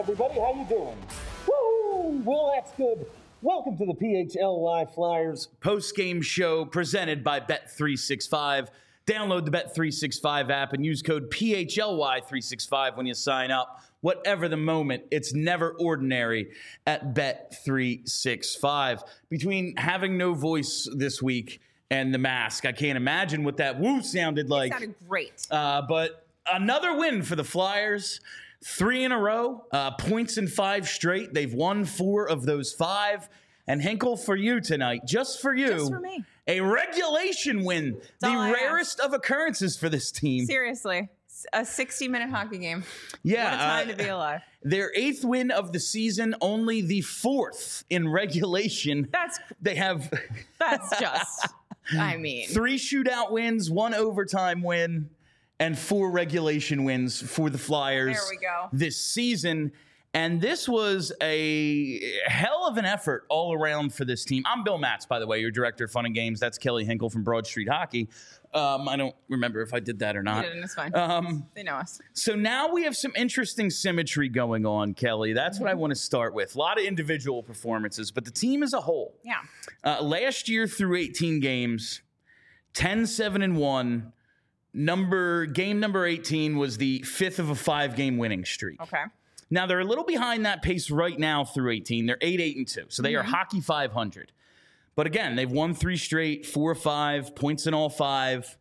everybody. How you doing? Woo! Well, that's good. Welcome to the PHL Live Flyers post-game show presented by Bet365. Download the Bet365 app and use code PHLY365 when you sign up. Whatever the moment, it's never ordinary at Bet365. Between having no voice this week and the mask, I can't imagine what that woo sounded like. It sounded great. But another win for the Flyers. 3 in a row, points in 5 straight. They've won 4 of those 5. And Hinkle, for you tonight, just for you. Just for me. A regulation win. The rarest of occurrences for this team. Seriously. A 60-minute hockey game. Yeah. What a time to be alive. Their 8th win of the season, only the 4th in regulation. That's just, I mean. 3 shootout wins, 1 overtime win, and 4 regulation wins for the Flyers. There we go. This season. And this was a hell of an effort all around for this team. I'm Bill Matz, by the way, your director of fun and games. That's Kelly Hinkle from Broad Street Hockey. I don't remember if I did that or not. You didn't, it's fine. They know us. So now we have some interesting symmetry going on, Kelly. That's what I want to start with. A lot of individual performances, but the team as a whole. Yeah. Last year through 18 games, 10-7-1. Game number 18 was the 5th of a 5-game winning streak. Okay. Now, they're a little behind that pace right now through 18. They're 8-8-2, so they are hockey 500. But again, they've won 3 straight, 4 of 5, points in all 5.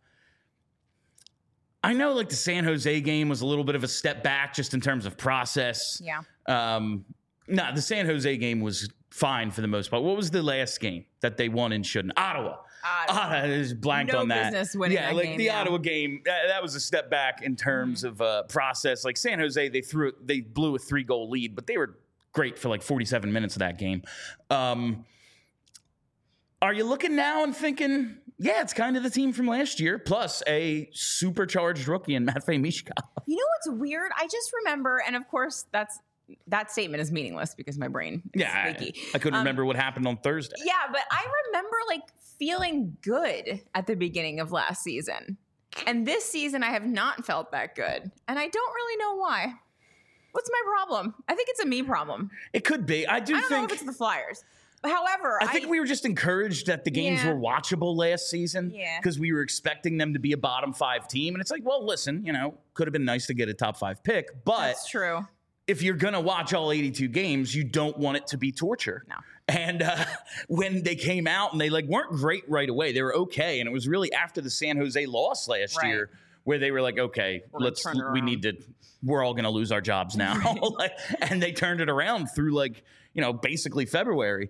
I know, like, the San Jose game was a little bit of a step back just in terms of process. Yeah. The San Jose game was fine for the most part. What was the last game that they won and shouldn't? Ottawa. I just blanked on that. No business winning that game. The Ottawa game, that was a step back in terms of process. Like San Jose, they blew a 3-goal lead, but they were great for like 47 minutes of that game. Are you looking now and thinking, yeah, it's kind of the team from last year, plus a supercharged rookie in Matvei Michkov? You know what's weird? I just remember, and of course that statement is meaningless because my brain is leaky. I couldn't remember what happened on Thursday. Yeah, but I remember feeling good at the beginning of last season. And this season I have not felt that good. And I don't really know why. What's my problem? I think it's a me problem. It could be. I don't know if it's the Flyers. However, I think we were just encouraged that the games were watchable last season because we were expecting them to be a bottom 5 team. And it's like, well, listen, could have been nice to get a top 5 pick. But that's true. If you're going to watch all 82 games, you don't want it to be torture. No. And when they came out and they weren't great right away, they were okay. And it was really after the San Jose loss last year where they were like, okay, we're all going to lose our jobs now. And they turned it around through basically February.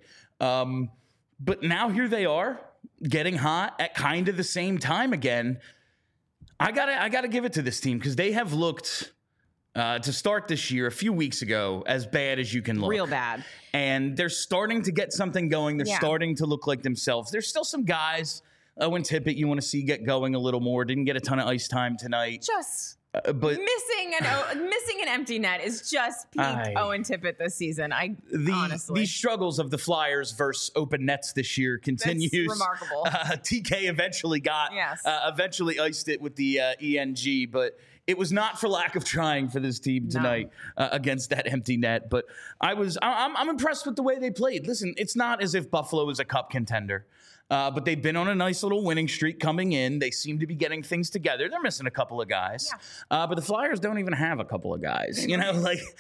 But now here they are getting hot at kind of the same time again. I gotta give it to this team because they have looked to start this year, a few weeks ago, as bad as you can look. Real bad. And they're starting to get something going. They're starting to look like themselves. There's still some guys, Owen Tippett, you want to see get going a little more. Didn't get a ton of ice time tonight. Just but missing an empty net is just peak Owen Tippett this season. Honestly. These struggles of the Flyers versus open nets this year continues. That's remarkable. TK eventually eventually iced it with the ENG, but it was not for lack of trying for this team tonight against that empty net. But I'm impressed with the way they played. Listen, it's not as if Buffalo is a cup contender. But they've been on a nice little winning streak coming in. They seem to be getting things together. They're missing a couple of guys. Yeah. But the Flyers don't even have a couple of guys. They have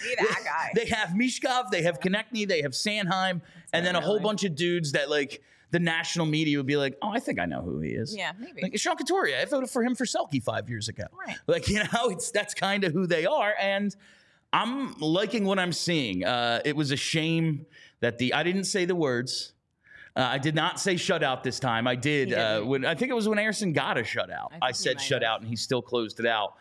Michkov, they have Konechny, they have Sanheim, and then a whole bunch of dudes that the national media would be like, oh, I think I know who he is. Yeah, maybe. Sean Couturier, I voted for him for Selke 5 years ago. Right. That's kind of who they are. And I'm liking what I'm seeing. It was a shame that I didn't say the words. I did not say shutout this time. I did. I think it was when Ersson got a shutout. I said shutout, and he still closed it out.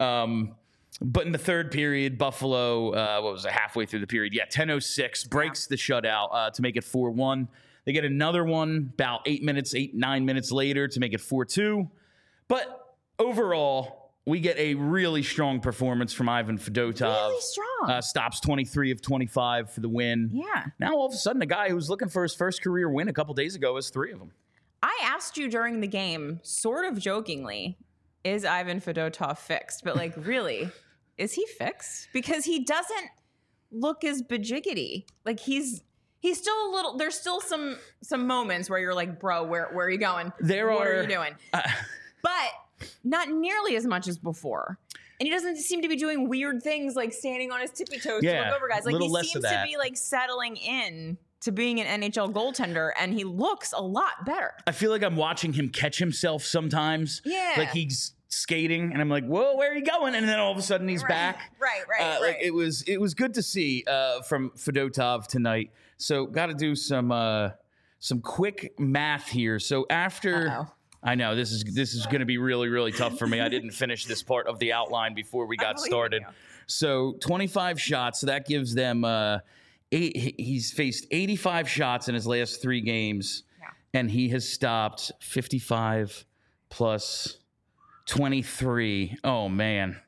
But in the third period, Buffalo, halfway through the period? 10:06, breaks the shutout to make it 4-1. They get another one about 8, 9 minutes later to make it 4-2. But overall, we get a really strong performance from Ivan Fedotov. Really strong. Stops 23 of 25 for the win. Yeah. Now, all of a sudden, a guy who was looking for his first career win a couple days ago has 3 of them. I asked you during the game, sort of jokingly, is Ivan Fedotov fixed? But really, is he fixed? Because he doesn't look as bajiggity. Like he's still a little. There's still some moments where you're like, bro, where are you going? What are you doing? But not nearly as much as before. And he doesn't seem to be doing weird things like standing on his tippy toes to look over guys. Like he seems to be like settling in to being an NHL goaltender, and he looks a lot better. I feel like I'm watching him catch himself sometimes. Yeah. Like he's skating and I'm like, whoa, where are you going? And then all of a sudden he's back. Right. Like it was good to see from Fedotov tonight. So got to do some quick math here. So after I know this is going to be really, really tough for me. I didn't finish this part of the outline before we got started. So 25 shots. So that gives them he's faced 85 shots in his last 3 games, and he has stopped 55 plus 23. Oh man.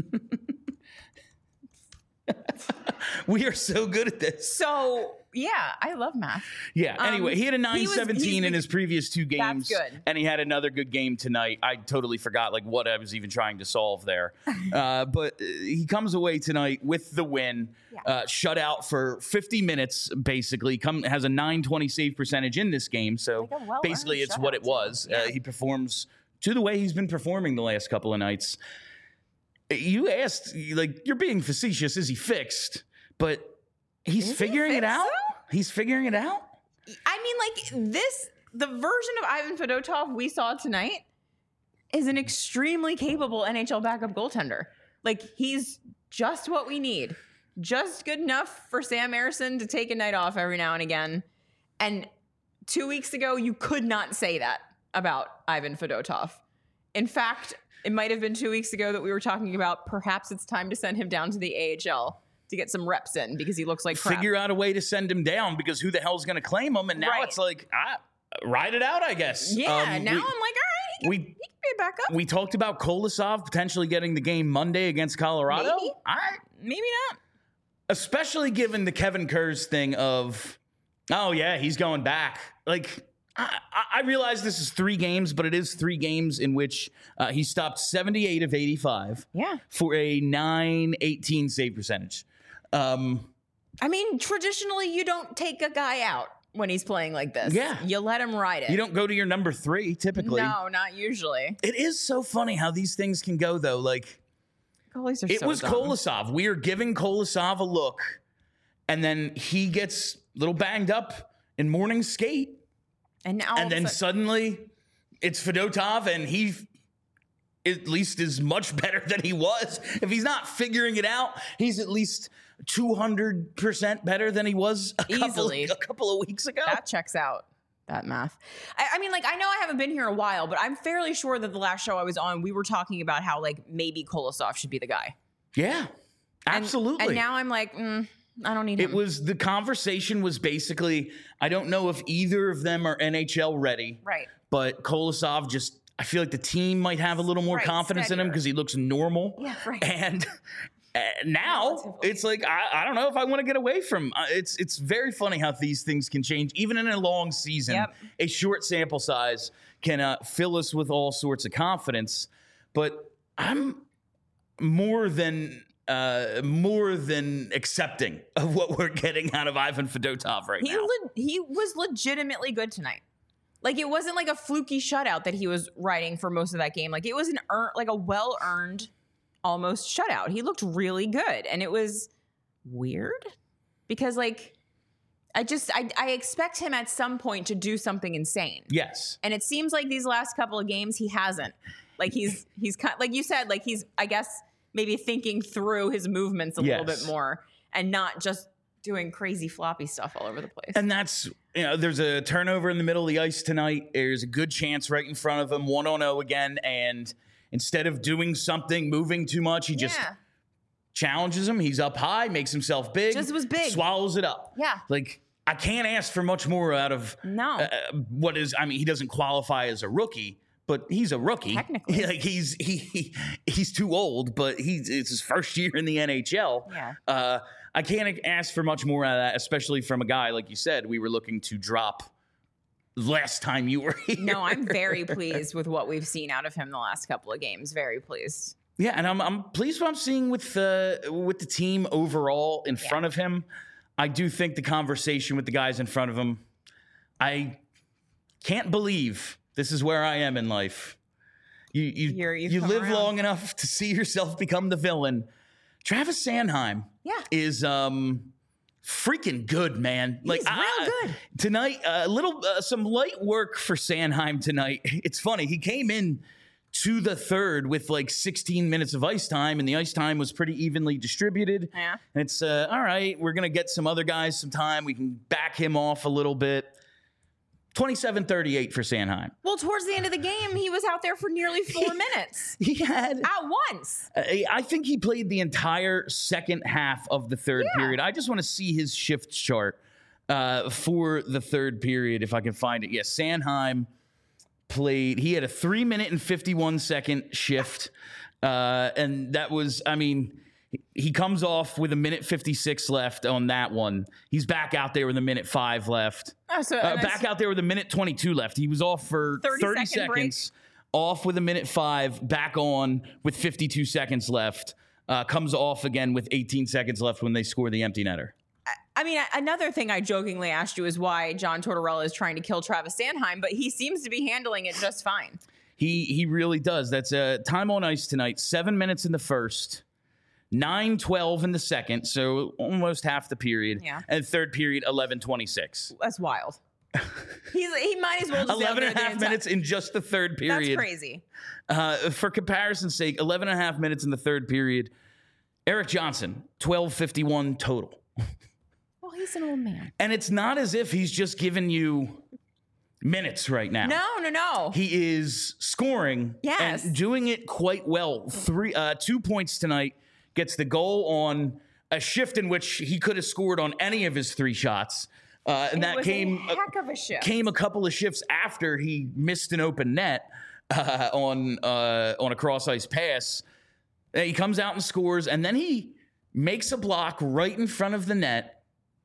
We are so good at this. So yeah, I love math. Yeah. Anyway, he had a 917 in his previous 2 games. That's good. And he had another good game tonight. I totally forgot like what I was even trying to solve there. But he comes away tonight with the win. Shut out for 50 minutes, basically. Has a 920 save percentage in this game. So like basically it's what it was. He performs to the way he's been performing the last couple of nights. You asked, like, you're being facetious. Is he fixed? But he's figuring it out. He's figuring it out. I mean, like the version of Ivan Fedotov we saw tonight is an extremely capable NHL backup goaltender. Like he's just what we need. Just good enough for Sam Ersson to take a night off every now and again. And 2 weeks ago, you could not say that about Ivan Fedotov. In fact, it might have been 2 weeks ago that we were talking about perhaps it's time to send him down to the AHL to get some reps in because he looks like crap. Figure out a way to send him down because who the hell's going to claim him? And now it's like, ride it out, I guess. Yeah, now I'm like, all right, he can be a backup. We talked about Kolosov potentially getting the game Monday against Colorado. Maybe. All right. Maybe not. Especially given the Kevin Kurz thing of, oh, yeah, he's going back. Like, I realize this is 3 games, but it is 3 games in which he stopped 78 of 85 for a 918 save percentage. I mean, traditionally, you don't take a guy out when he's playing like this. Yeah. You let him ride it. You don't go to your number 3, typically. No, not usually. It is so funny how these things can go, though. Like, it was dumb. Kolosov. We are giving Kolosov a look, and then he gets a little banged up in morning skate. And then suddenly it's Fedotov, and he at least is much better than he was. If he's not figuring it out, he's at least 200% better than he was a couple of weeks ago. That checks out, that math. I mean, like, I know I haven't been here a while, but I'm fairly sure that the last show I was on, we were talking about how, like, maybe Kolosov should be the guy. Yeah, absolutely. And now I'm like, I don't need him. The conversation was basically, I don't know if either of them are NHL ready. Right. But Kolosov I feel like the team might have a little more confidence in him because he looks normal. Yeah, right. And now it's like, I don't know if I want to get away from it's very funny how these things can change. Even in a long season, a short sample size can fill us with all sorts of confidence. But I'm more than accepting of what we're getting out of Ivan Fedotov right now. He was legitimately good tonight. Like, it wasn't like a fluky shutout that he was riding for most of that game. Like, it was a well-earned almost shutout. He looked really good. And it was weird because, like, I expect him at some point to do something insane. Yes. And it seems like these last couple of games, he hasn't. Like, he's kind of, like you said, like, he's, I guess, maybe thinking through his movements a little bit more and not just doing crazy floppy stuff all over the place. And that's, there's a turnover in the middle of the ice tonight. There's a good chance right in front of him, 1-on-0 again. And instead of doing something, moving too much, he just challenges him. He's up high, makes himself big. Just was big. Swallows it up. Yeah. Like, I can't ask for much more out of he doesn't qualify as a rookie, but he's a rookie. Technically. Like, he's too old, but it's his first year in the NHL. Yeah. I can't ask for much more out of that, especially from a guy, like you said, we were looking to drop last time you were here. No, I'm very pleased with what we've seen out of him the last couple of games. Very pleased. Yeah, and I'm pleased what I'm seeing with the team overall in front of him. I do think the conversation with the guys in front of him, I can't believe this is where I am in life. You live around long enough to see yourself become the villain. Travis Sanheim is freaking good, man. He's real good. Tonight, some light work for Sanheim tonight. It's funny. He came in to the third with like 16 minutes of ice time, and the ice time was pretty evenly distributed. Yeah. And it's, all right, we're going to get some other guys some time. We can back him off a little bit. 27-38 for Sanheim. Well, towards the end of the game, he was out there for nearly 4 minutes. He had... At once. I think he played the entire second half of the third period. I just want to see his shift chart for the third period, if I can find it. Yes, Sanheim played... He had a 3 minute and 51 second shift. And that was... I mean... He comes off with a minute 56 left on that one. He's back out there with a minute 5 left. Back out there with a minute 22 left. He was off for 30 seconds, off with a minute 5, back on with 52 seconds left. Comes off again with 18 seconds left when they score the empty netter. I mean, another thing I jokingly asked you is why John Tortorella is trying to kill Travis Sanheim, but he seems to be handling it just fine. He really does. That's time on ice tonight. 7 minutes in the first. 9:12 in the second, so almost half the period. Yeah. And third period, 11:26. That's wild. He might as well just 11 and a half minutes in just the third period. That's crazy. For comparison's sake, 11 and a half minutes in the third period. Erik Johnson, 12:51 total. Well, he's an old man. And it's not as if he's just giving you minutes right now. No. He is scoring and doing it quite well. 2 points tonight. Gets the goal on a shift in which he could have scored on any of his 3 shots. And that came a heck of a shift. Came a couple of shifts after he missed an open net on a cross ice pass. He comes out and scores, and then he makes a block right in front of the net,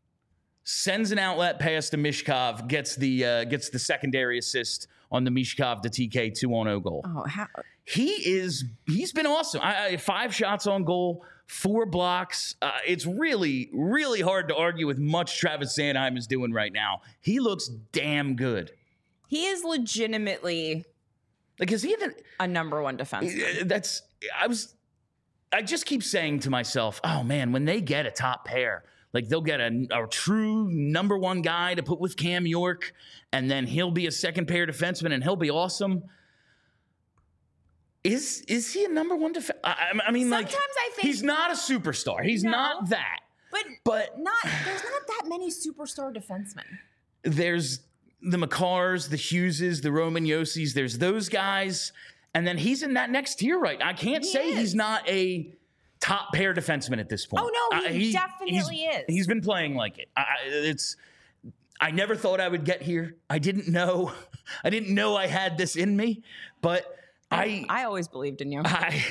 sends an outlet pass to Mishkov, gets the secondary assist on the Mishkov to TK 2-0 goal. Oh, how? He's been awesome. 5 shots on goal, 4 blocks. It's really, really hard to argue with much Travis Sanheim is doing right now. He looks damn good. He is legitimately a number 1 defenseman. I just keep saying to myself, oh man, when they get a top pair, like they'll get a true number 1 guy to put with Cam York, and then he'll be a second pair defenseman and he'll be awesome. Is he a number 1 defense? I mean, sometimes I think he's not a superstar. He's not that. But there's not that many superstar defensemen. There's the Makars, the Hugheses, the Roman Yossis. There's those guys, and then he's in that next tier, right? I can't say he's not a top pair defenseman at this point. Oh no, he definitely is. He's been playing like it. I never thought I would get here. I didn't know I had this in me, but I always believed in you. I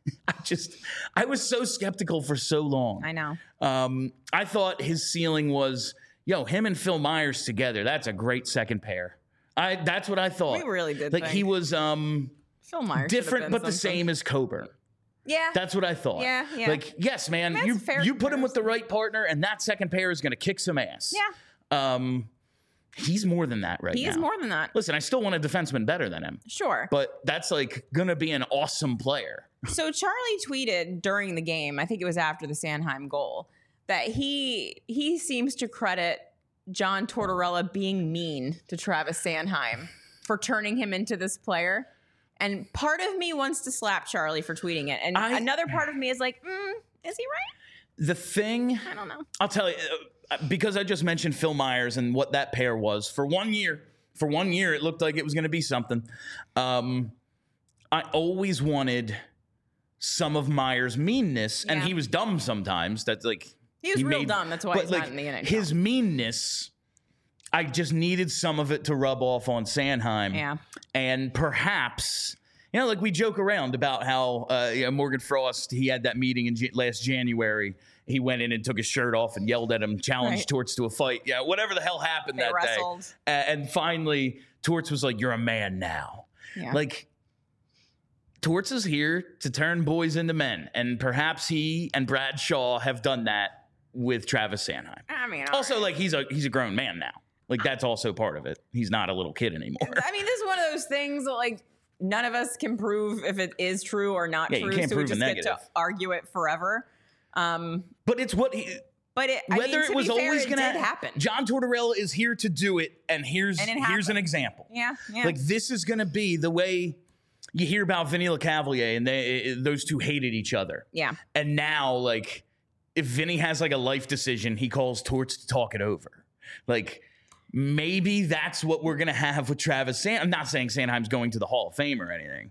was so skeptical for so long. I know. I thought his ceiling was, him and Phil Myers together. That's a great second pair. That's what I thought. We really did. Like he was Phil Myers different, but the same as Coburn. Yeah. That's what I thought. Yeah. Like, yes, man, you put him with the right partner, and that second pair is going to kick some ass. Yeah. He's more than that right now. He is more than that. Listen, I still want a defenseman better than him. Sure. But that's like going to be an awesome player. So Charlie tweeted during the game, I think it was after the Sanheim goal, that he seems to credit John Tortorella being mean to Travis Sanheim for turning him into this player. And part of me wants to slap Charlie for tweeting it. And another part of me is like, is he right? The thing... I don't know. I'll tell you... because I just mentioned Phil Myers and what that pair was for 1 year. For 1 year, it looked like it was going to be something. I always wanted some of Myers' meanness, and he was dumb sometimes. That's like he was real dumb. That's why he's not in the NHL. His meanness, I just needed some of it to rub off on Sanheim. Yeah, and perhaps. Like we joke around about how Morgan Frost, he had that meeting in last January. He went in and took his shirt off and yelled at him, challenged Torts to a fight. Yeah, whatever the hell happened that wrestled. Day. And finally, Torts was like, "You're a man now." Yeah. Like, Torts is here to turn boys into men, and perhaps he and Brad Shaw have done that with Travis Sanheim. I mean, also, like he's a grown man now. Like that's also part of it. He's not a little kid anymore. I mean, this is one of those things that like none of us can prove if it is true or not Yeah, true. you can't so we prove a just get negative. to argue it forever. But it's what he. But Whether it was always going to happen. John Tortorella is here to do it, and here's an example. Yeah. Like this is going to be the way you hear about Vinny LeCavalier, and those two hated each other. Yeah. And now, like, if Vinny has like a life decision, he calls Torts to talk it over. Like, maybe that's what we're going to have with Travis Sanheim. I'm not saying Sanheim's going to the Hall of Fame or anything.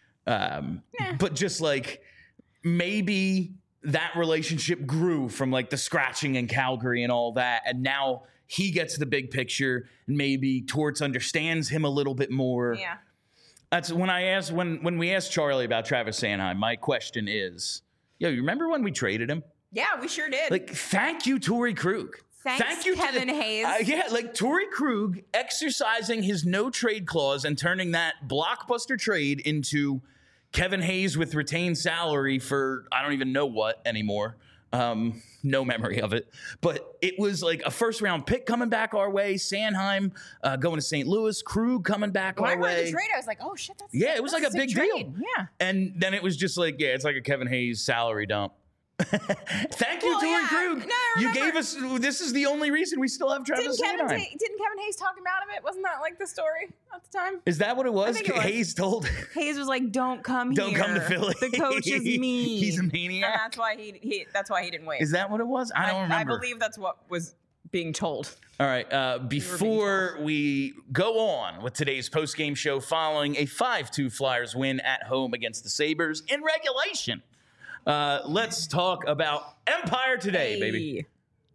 But just like maybe that relationship grew from like the scratching in Calgary and all that. And now he gets the big picture, and maybe Torts understands him a little bit more. Yeah. That's when we asked Charlie about Travis Sanheim, my question is, you remember when we traded him? Yeah, we sure did. Like, thank you, Torrey Krug. Thank you, Kevin Hayes. Yeah, like Torrey Krug exercising his no trade clause and turning that blockbuster trade into Kevin Hayes with retained salary for I don't even know what anymore. No memory of it. But it was like a first-round pick coming back our way, Sanheim going to St. Louis, Krug coming back when our I read way. the trade, I was like, oh, shit, that's It was like a big trade. deal. Yeah. And then it was just like, it's like a Kevin Hayes salary dump. Thank you, Torrey Krug. No, you gave us. This is the only reason we still have Travis Sanheim. Didn't Kevin Hayes talk him out of it? Wasn't that like the story at the time? Is that what it was? I think it was. Hayes told. Hayes was like, "Don't come Don't here. come to Philly. The coach is mean. He's a maniac." And that's why he didn't wait. Is that what it was? I don't remember. I believe that's what was being told. All right. Before we go on with today's post-game show, following a 5-2 Flyers win at home against the Sabres in regulation. Let's talk about Empire Today, baby.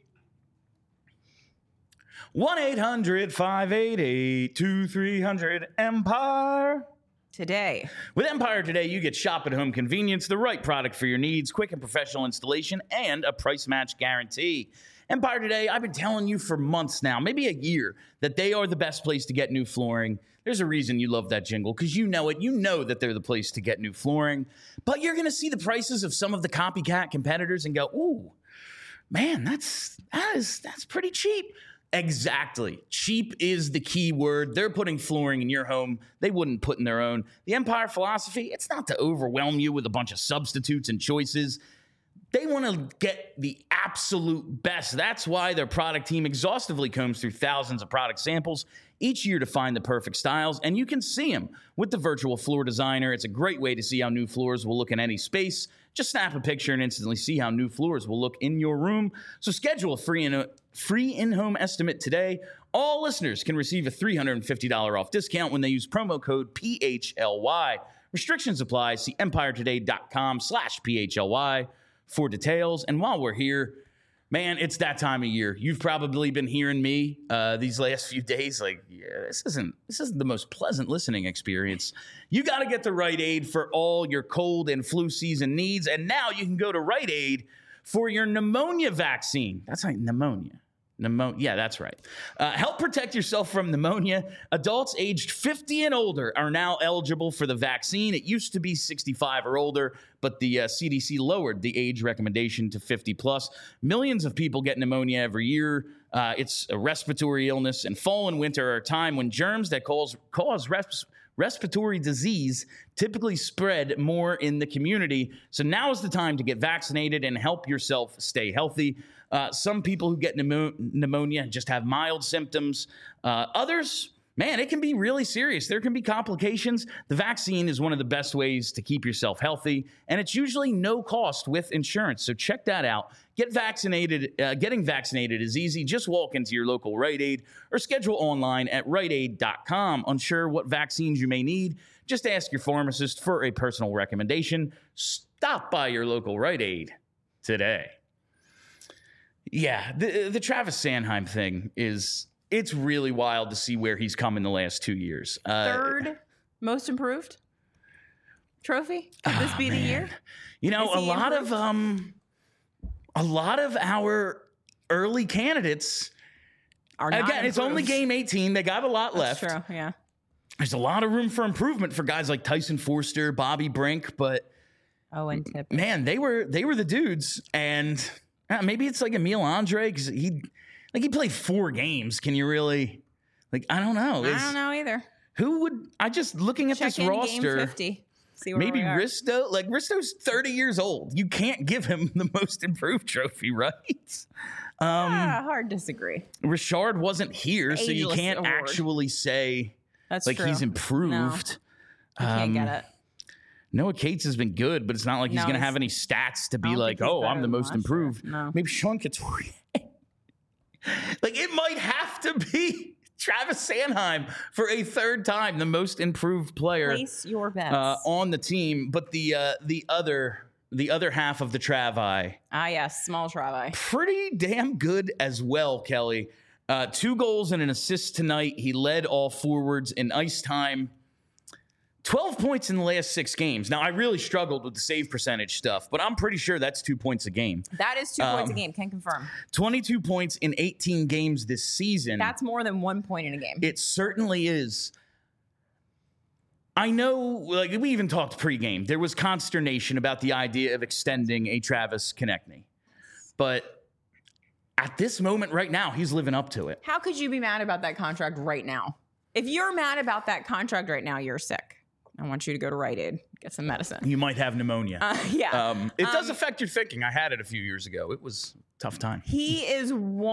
1-800-588-2300 Empire. With Empire Today, you get shop at home convenience, the right product for your needs, quick and professional installation, and a price match guarantee. Empire Today, I've been telling you for months now, maybe a year, that they are the best place to get new flooring. There's a reason you love that jingle, because you know it. You know that they're the place to get new flooring. But you're going to see the prices of some of the copycat competitors and go, ooh, man, that's pretty cheap. Exactly. Cheap is the key word. They're putting flooring in your home they wouldn't put in their own. The Empire philosophy, it's not to overwhelm you with a bunch of substitutes and choices. They want to get the absolute best. That's why their product team exhaustively combs through thousands of product samples each year to find the perfect styles, and you can see them with the virtual floor designer. It's a great way to see how new floors will look in any space. Just snap a picture and instantly see how new floors will look in your room. So schedule a free in-home estimate today. All listeners can receive a $350 off discount when they use promo code PHLY. Restrictions apply. See empiretoday.com/PHLY for details. And while we're here, man, it's that time of year. You've probably been hearing me these last few days like, yeah, this isn't the most pleasant listening experience. You got to get to Rite Aid for all your cold and flu season needs. And now you can go to Rite Aid for your pneumonia vaccine. That's right, pneumonia. Yeah, that's right. Help protect yourself from pneumonia. Adults aged 50 and older are now eligible for the vaccine. It used to be 65 or older, but the CDC lowered the age recommendation to 50 plus. Millions of people get pneumonia every year. It's a respiratory illness, and fall and winter are a time when germs that cause respiratory disease typically spread more in the community. So now is the time to get vaccinated and help yourself stay healthy. Some people who get pneumonia just have mild symptoms. Others, man, it can be really serious. There can be complications. The vaccine is one of the best ways to keep yourself healthy, and it's usually no cost with insurance. So check that out. Get vaccinated. Getting vaccinated is easy. Just walk into your local Rite Aid or schedule online at riteaid.com. Unsure what vaccines you may need? Just ask your pharmacist for a personal recommendation. Stop by your local Rite Aid today. Yeah, the Travis Sanheim thing it's really wild to see where he's come in the last 2 years. Third most improved trophy? Could this be the year? You know, a lot of our early candidates are not again, it's only game 18. They got a lot left. True, yeah. there's a lot of room for improvement for guys like Tyson Forster, Bobby Brink, but and Tippett. Man, they were the dudes, and maybe it's like Emil Andre because he played 4 games. Can you really I don't know. I don't know either. Who would I just looking at Check this in roster? Game 50. See where Maybe we are. Risto. Risto's 30 years old. You can't give him the most improved trophy, right? Hard disagree. Richard wasn't here, so you Ageless can't award. actually say That's true. he's improved. I can't get it. Noah Cates has been good, but it's not like he's No, going to he's- have any stats to be don't like, think he's oh, I'm better the than most last year. improved. No. Maybe Sean Couturier. It might have to be Travis Sanheim for a 3rd time, the most improved player Place your bets. on the team. But the other half of the Travi, Yes, small Travi. pretty damn good as well, Kelly. 2 goals and an assist tonight. He led all forwards in ice time. 12 points in the last 6 games. Now, I really struggled with the save percentage stuff, but I'm pretty sure that's 2 points a game. That is 2 points a game. Can confirm. 22 points in 18 games this season. That's more than 1 point in a game. It certainly is. I know, we even talked pregame. There was consternation about the idea of extending a Travis Konechny. But at this moment right now, he's living up to it. How could you be mad about that contract right now? If you're mad about that contract right now, you're sick. I want you to go to Rite Aid, get some medicine. You might have pneumonia. It does affect your thinking. I had it a few years ago. It was a tough time. He is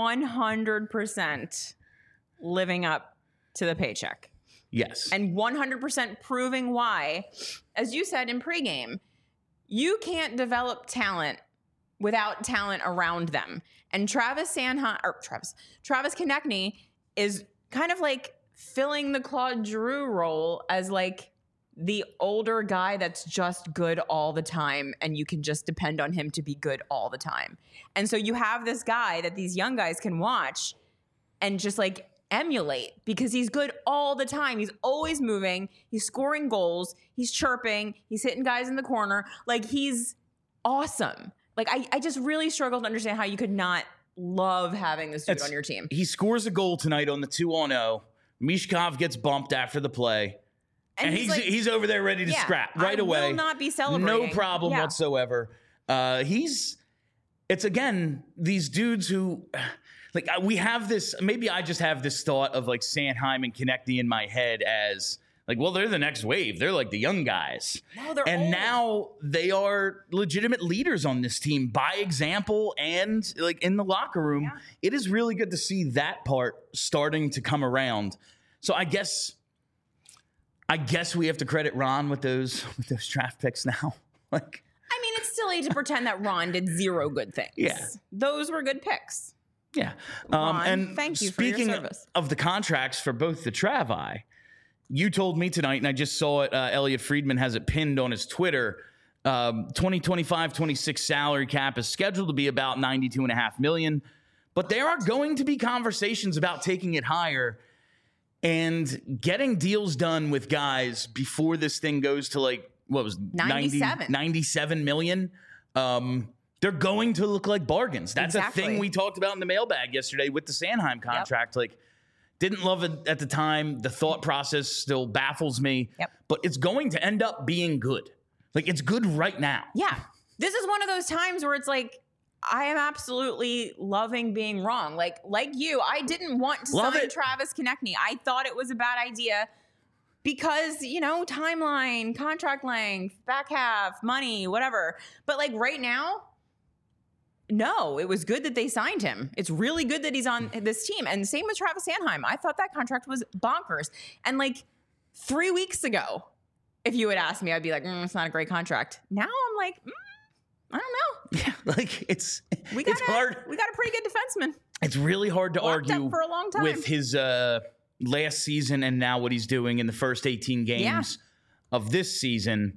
100% living up to the paycheck. Yes. And 100% proving why, as you said in pregame, you can't develop talent without talent around them. And Travis Konechny is kind of filling the Claude Giroux role as the older guy that's just good all the time, and you can just depend on him to be good all the time. And so you have this guy that these young guys can watch and just emulate because he's good all the time. He's always moving. He's scoring goals. He's chirping. He's hitting guys in the corner. He's awesome. I just really struggle to understand how you could not love having this dude on your team. He scores a goal tonight on the 2-0. Mishkov gets bumped after the play. And he's over there ready to scrap right away. I will not be celebrating. No problem whatsoever. It's again, these dudes who we have this, maybe I just have this thought of Sanheim and Konechny in my head as they're the next wave. They're the young guys. No, they're and old. now they are legitimate leaders on this team by example and in the locker room. Yeah. It is really good to see that part starting to come around. So I guess we have to credit Ron with those draft picks now. It's silly to pretend that Ron did 0 good things. Yeah. Those were good picks. Yeah. Ron, and thank you for your speaking service. of the contracts for both the Travi, you told me tonight, and I just saw it, Elliot Friedman has it pinned on his Twitter, 2025-26 salary cap is scheduled to be about $92.5 million, but there are going to be conversations about taking it higher and getting deals done with guys before this thing goes to 97 million. They're going to look like bargains. That's Exactly. a thing we talked about in the mailbag yesterday with the Sanheim contract. Didn't love it at the time. The thought process still baffles me. Yep. But it's going to end up being good. It's good right now. Yeah. This is one of those times where it's I am absolutely loving being wrong. Like you, I didn't want to sign Travis Konechny. I thought it was a bad idea because, timeline, contract length, back half, money, whatever. But right now, no, it was good that they signed him. It's really good that he's on this team. And same with Travis Sanheim. I thought that contract was bonkers. And 3 weeks ago, if you had asked me, I'd be it's not a great contract. Now I'm I don't know. Yeah, it's hard. We got a pretty good defenseman. It's really hard to Locked argue up for a long time. with his last season and now what he's doing in the first 18 games of this season.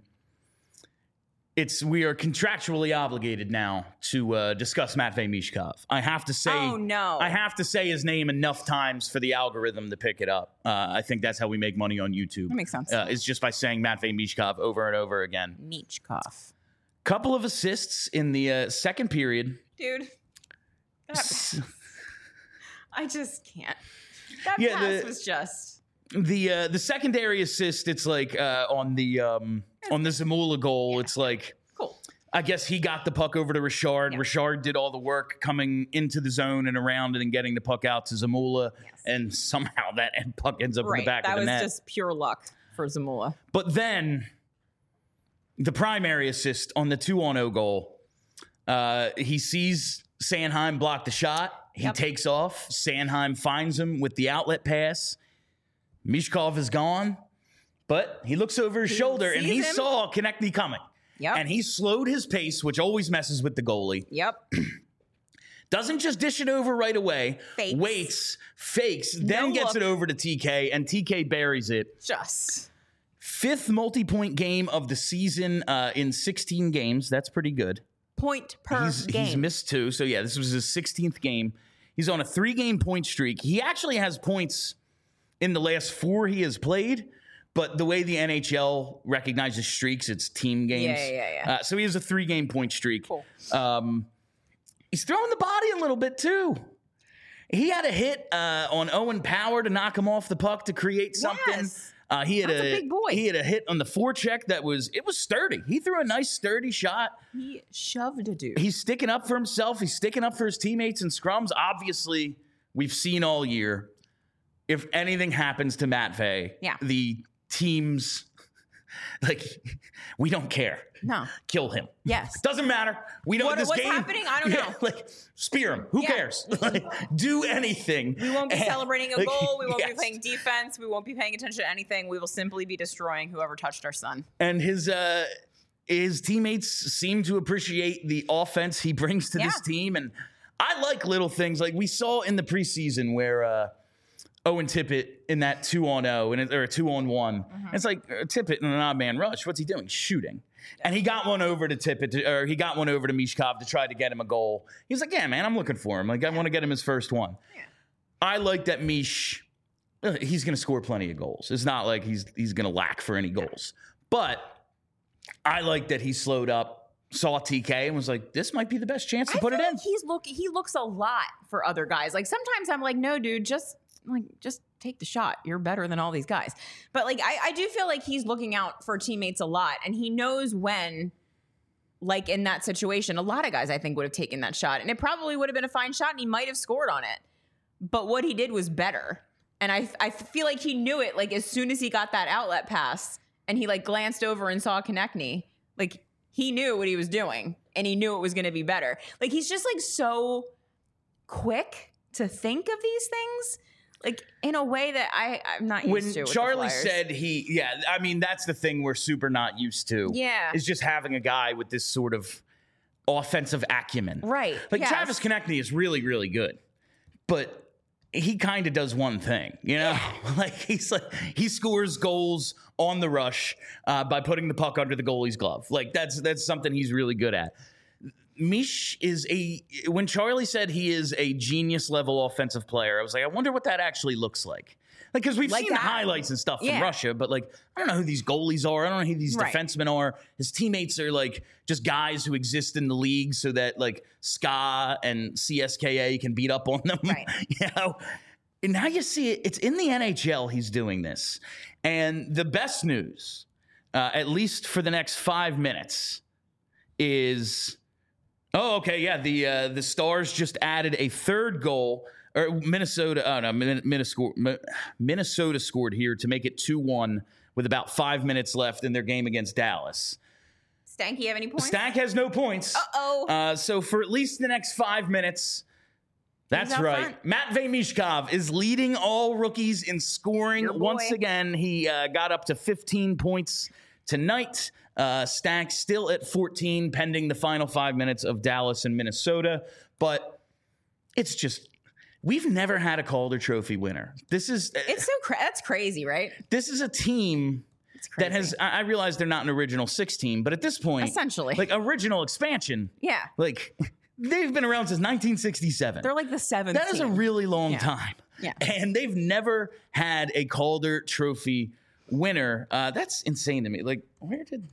We are contractually obligated now to discuss Matvei Mishkov. I have to say, I have to say his name enough times for the algorithm to pick it up. I think that's how we make money on YouTube. That makes sense. It's just by saying Matvei Mishkov over and over again. Michkov. Couple of assists in the second period. Dude. I just can't. That pass was just... The secondary assist, it's like on the Zamula goal, it's like Cool. I guess he got the puck over to Richard. Yeah. Richard did all the work coming into the zone and around it and getting the puck out to Zamula, and somehow that puck ends up in the back of the net. That was just pure luck for Zamula. But then the primary assist on the 2-on-0 goal, he sees Sanheim block the shot. He takes off. Sanheim finds him with the outlet pass. Mishkov is gone, but he looks over his shoulder and he saw Konechny coming. Yep. And he slowed his pace, which always messes with the goalie. Yep. Doesn't just dish it over right away. Fakes. Waits, fakes, then gets it over to TK, and TK buries it. Just. 5th multi-point game of the season in 16 games. That's pretty good. Point per game. He's missed 2. So, yeah, this was his 16th game. He's on a 3-game point streak. He actually has points in the last 4 he has played. But the way the NHL recognizes streaks, it's team games. Yeah. So he has a 3-game point streak. Cool. He's throwing the body a little bit, too. He had a hit on Owen Power to knock him off the puck to create something. Yes. He had That's a big boy. He had a hit on the forecheck that was sturdy. He threw a nice sturdy shot. He shoved a dude. He's sticking up for himself. He's sticking up for his teammates in scrums. Obviously, we've seen all year, if anything happens to Matvey, the teams, we don't care. No. Kill him. Yes. Doesn't matter. We don't. What's happening? I don't know. Spear him. Who cares? Do anything. We won't be celebrating a goal. We won't yes. be playing defense. We won't be paying attention to anything. We will simply be destroying whoever touched our son. And his teammates seem to appreciate the offense he brings to this team. And I like little things like we saw in the preseason where Owen Tippett in that 2-on-0 or a 2-on-1. It's like Tippett in an odd man rush. What's he doing? Shooting. And he got one over to Tippett, or he got one over to Mishkov to try to get him a goal. He was like, yeah, man, I'm looking for him. Like, I want to get him his first one. Yeah. I like that Mish, he's going to score plenty of goals. It's not like he's going to lack for any goals. But I like that he slowed up, saw TK, and was like, this might be the best chance to put it in. Like he looks a lot for other guys. Like, sometimes I'm like, no, dude, just take the shot. You're better than all these guys. But I do feel like he's looking out for teammates a lot, and he knows when, like in that situation, a lot of guys I think would have taken that shot, and it probably would have been a fine shot, and he might have scored on it. But what he did was better, and I feel like he knew it. Like as soon as he got that outlet pass, and he glanced over and saw Konechny, he knew what he was doing, and he knew it was going to be better. Like he's just so quick to think of these things. In a way that I'm not used to. When Charlie said that's the thing we're super not used to. Yeah. Is just having a guy with this sort of offensive acumen. Right. Travis Konechny is really, really good. But he kind of does one thing, you know? He scores goals on the rush by putting the puck under the goalie's glove. That's something he's really good at. Mish when Charlie said he is a genius level offensive player, I was like, I wonder what that actually looks like. Because we've seen the highlights and stuff from Russia, but I don't know who these goalies are. I don't know who these defensemen are. His teammates are just guys who exist in the league so that SKA and CSKA can beat up on them. Right. And now you see it. It's in the NHL he's doing this. And the best news, at least for the next 5 minutes, is... Oh, okay, yeah. The Stars just added a third goal. Or Minnesota scored here to make it 2-1 with about 5 minutes left in their game against Dallas. Stanky have any points? Stank has no points. Uh-oh. So for at least the next 5 minutes, that's right. Front. Matvey Mishkov is leading all rookies in scoring. Once again, he got up to 15 points tonight. Stank still at 14, pending the final 5 minutes of Dallas and Minnesota. But it's just, we've never had a Calder Trophy winner. That's crazy, right? This is a team that has, I realize they're not an original 6 team, but at this point, essentially, original expansion. Yeah. They've been around since 1967. They're the 7th That is team. a really long time. Yeah. And they've never had a Calder Trophy winner. That's insane to me. Where did...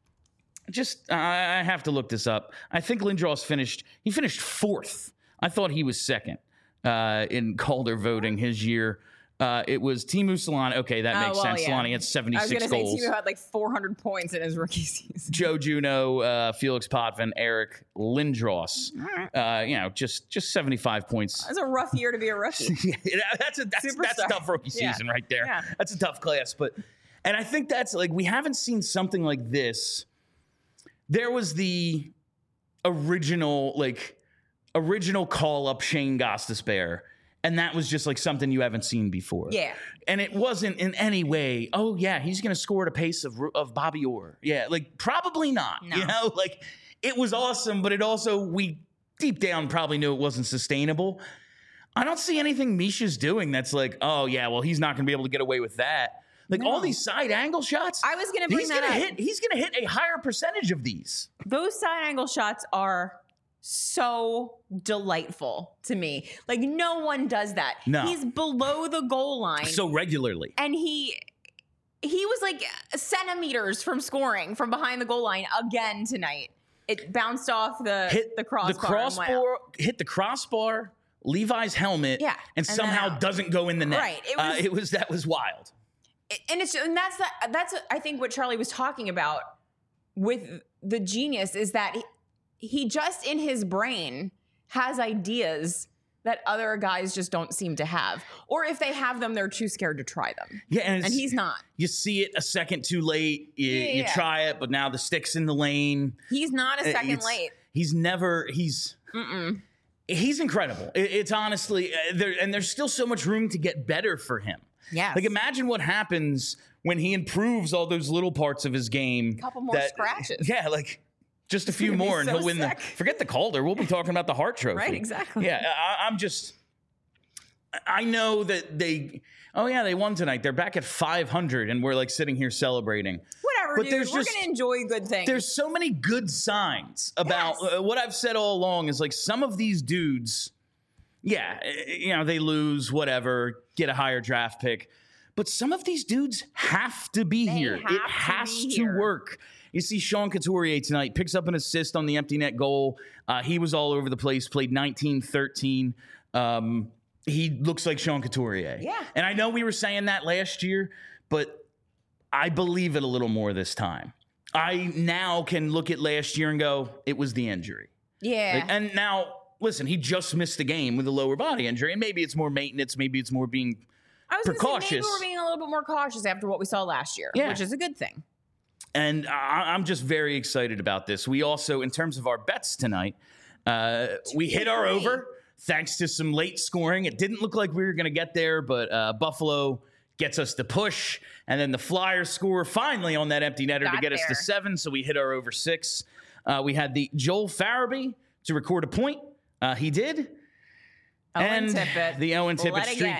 I have to look this up. I think Lindros finished 4th. I thought he was 2nd in Calder voting his year. It was Timu Solana. Okay, that makes sense. yeah. Solana had I was 76 going to say goals. Timu had like 400 points in his rookie season. Joe Juno, Felix Potvin, Eric Lindros. Just 75 points. That's a rough year to be a rookie. that's a Superstar. tough rookie Yeah. season right there. Yeah. That's a tough class. And I think that's like, we haven't seen something like this. There was the original call up Shane Gostisbehere. And that was just like something you haven't seen before. Yeah. And it wasn't in any way, oh, yeah, he's going to score at a pace of Bobby Orr. Yeah, like probably not. No. You know, like it was awesome, but it also, we deep down probably knew it wasn't sustainable. I don't see anything Misha's doing that's like, oh, yeah, well, he's not going to be able to get away with that. Like all these side angle shots. I was going to bring that up. He's going to hit a higher percentage of these. Those side angle shots are so delightful to me. Like no one does that. No. He's below the goal line. So regularly. And he was like centimeters from scoring from behind the goal line again tonight. It bounced off the crossbar. Hit the crossbar, Levi's helmet, Yeah, and and somehow then out. doesn't go in the net. Right. That was wild. And that's I think what Charlie was talking about with the genius is that he just in his brain has ideas that other guys just don't seem to have. Or if they have them, they're too scared to try them. Yeah, and he's not. You see it a second too late. You try it, but now the stick's in the lane. He's not a second late. He's incredible. It's honestly, there's still so much room to get better for him. Yes. Like imagine what happens when he improves all those little parts of his game. A couple more scratches. Yeah, like just a few more and so he'll win sick. forget the Calder. We'll be talking about the Hart Trophy. Right, exactly. Yeah, I know that they won tonight. They're back at 500 and we're like sitting here celebrating. Whatever, But dude. there's We're just- going to enjoy good things. There's so many good signs about what I've said all along is like some of these dudes, they lose, whatever, get a higher draft pick. But some of these dudes have to be here. It has to work. You see Sean Couturier tonight, picks up an assist on the empty net goal. He was all over the place, played 19-13. He looks like Sean Couturier. Yeah. And I know we were saying that last year, but I believe it a little more this time. I now can look at last year and go, it was the injury. Yeah. And now, listen, he just missed the game with a lower body injury. And maybe it's more maintenance. Maybe it's more being I was going to say maybe precautious. we're being a little bit more cautious after what we saw last year, which is a good thing. And I'm just very excited about this. We also, in terms of our bets tonight, we hit our over thanks to some late scoring. It didn't look like we were going to get there, but Buffalo gets us to push. And then the Flyers score finally on that empty netter to get us to 7. So we hit our over 6. We had the Joel Farabee to record a point. He did. Owen And Tippett. the Owen Tippett streak.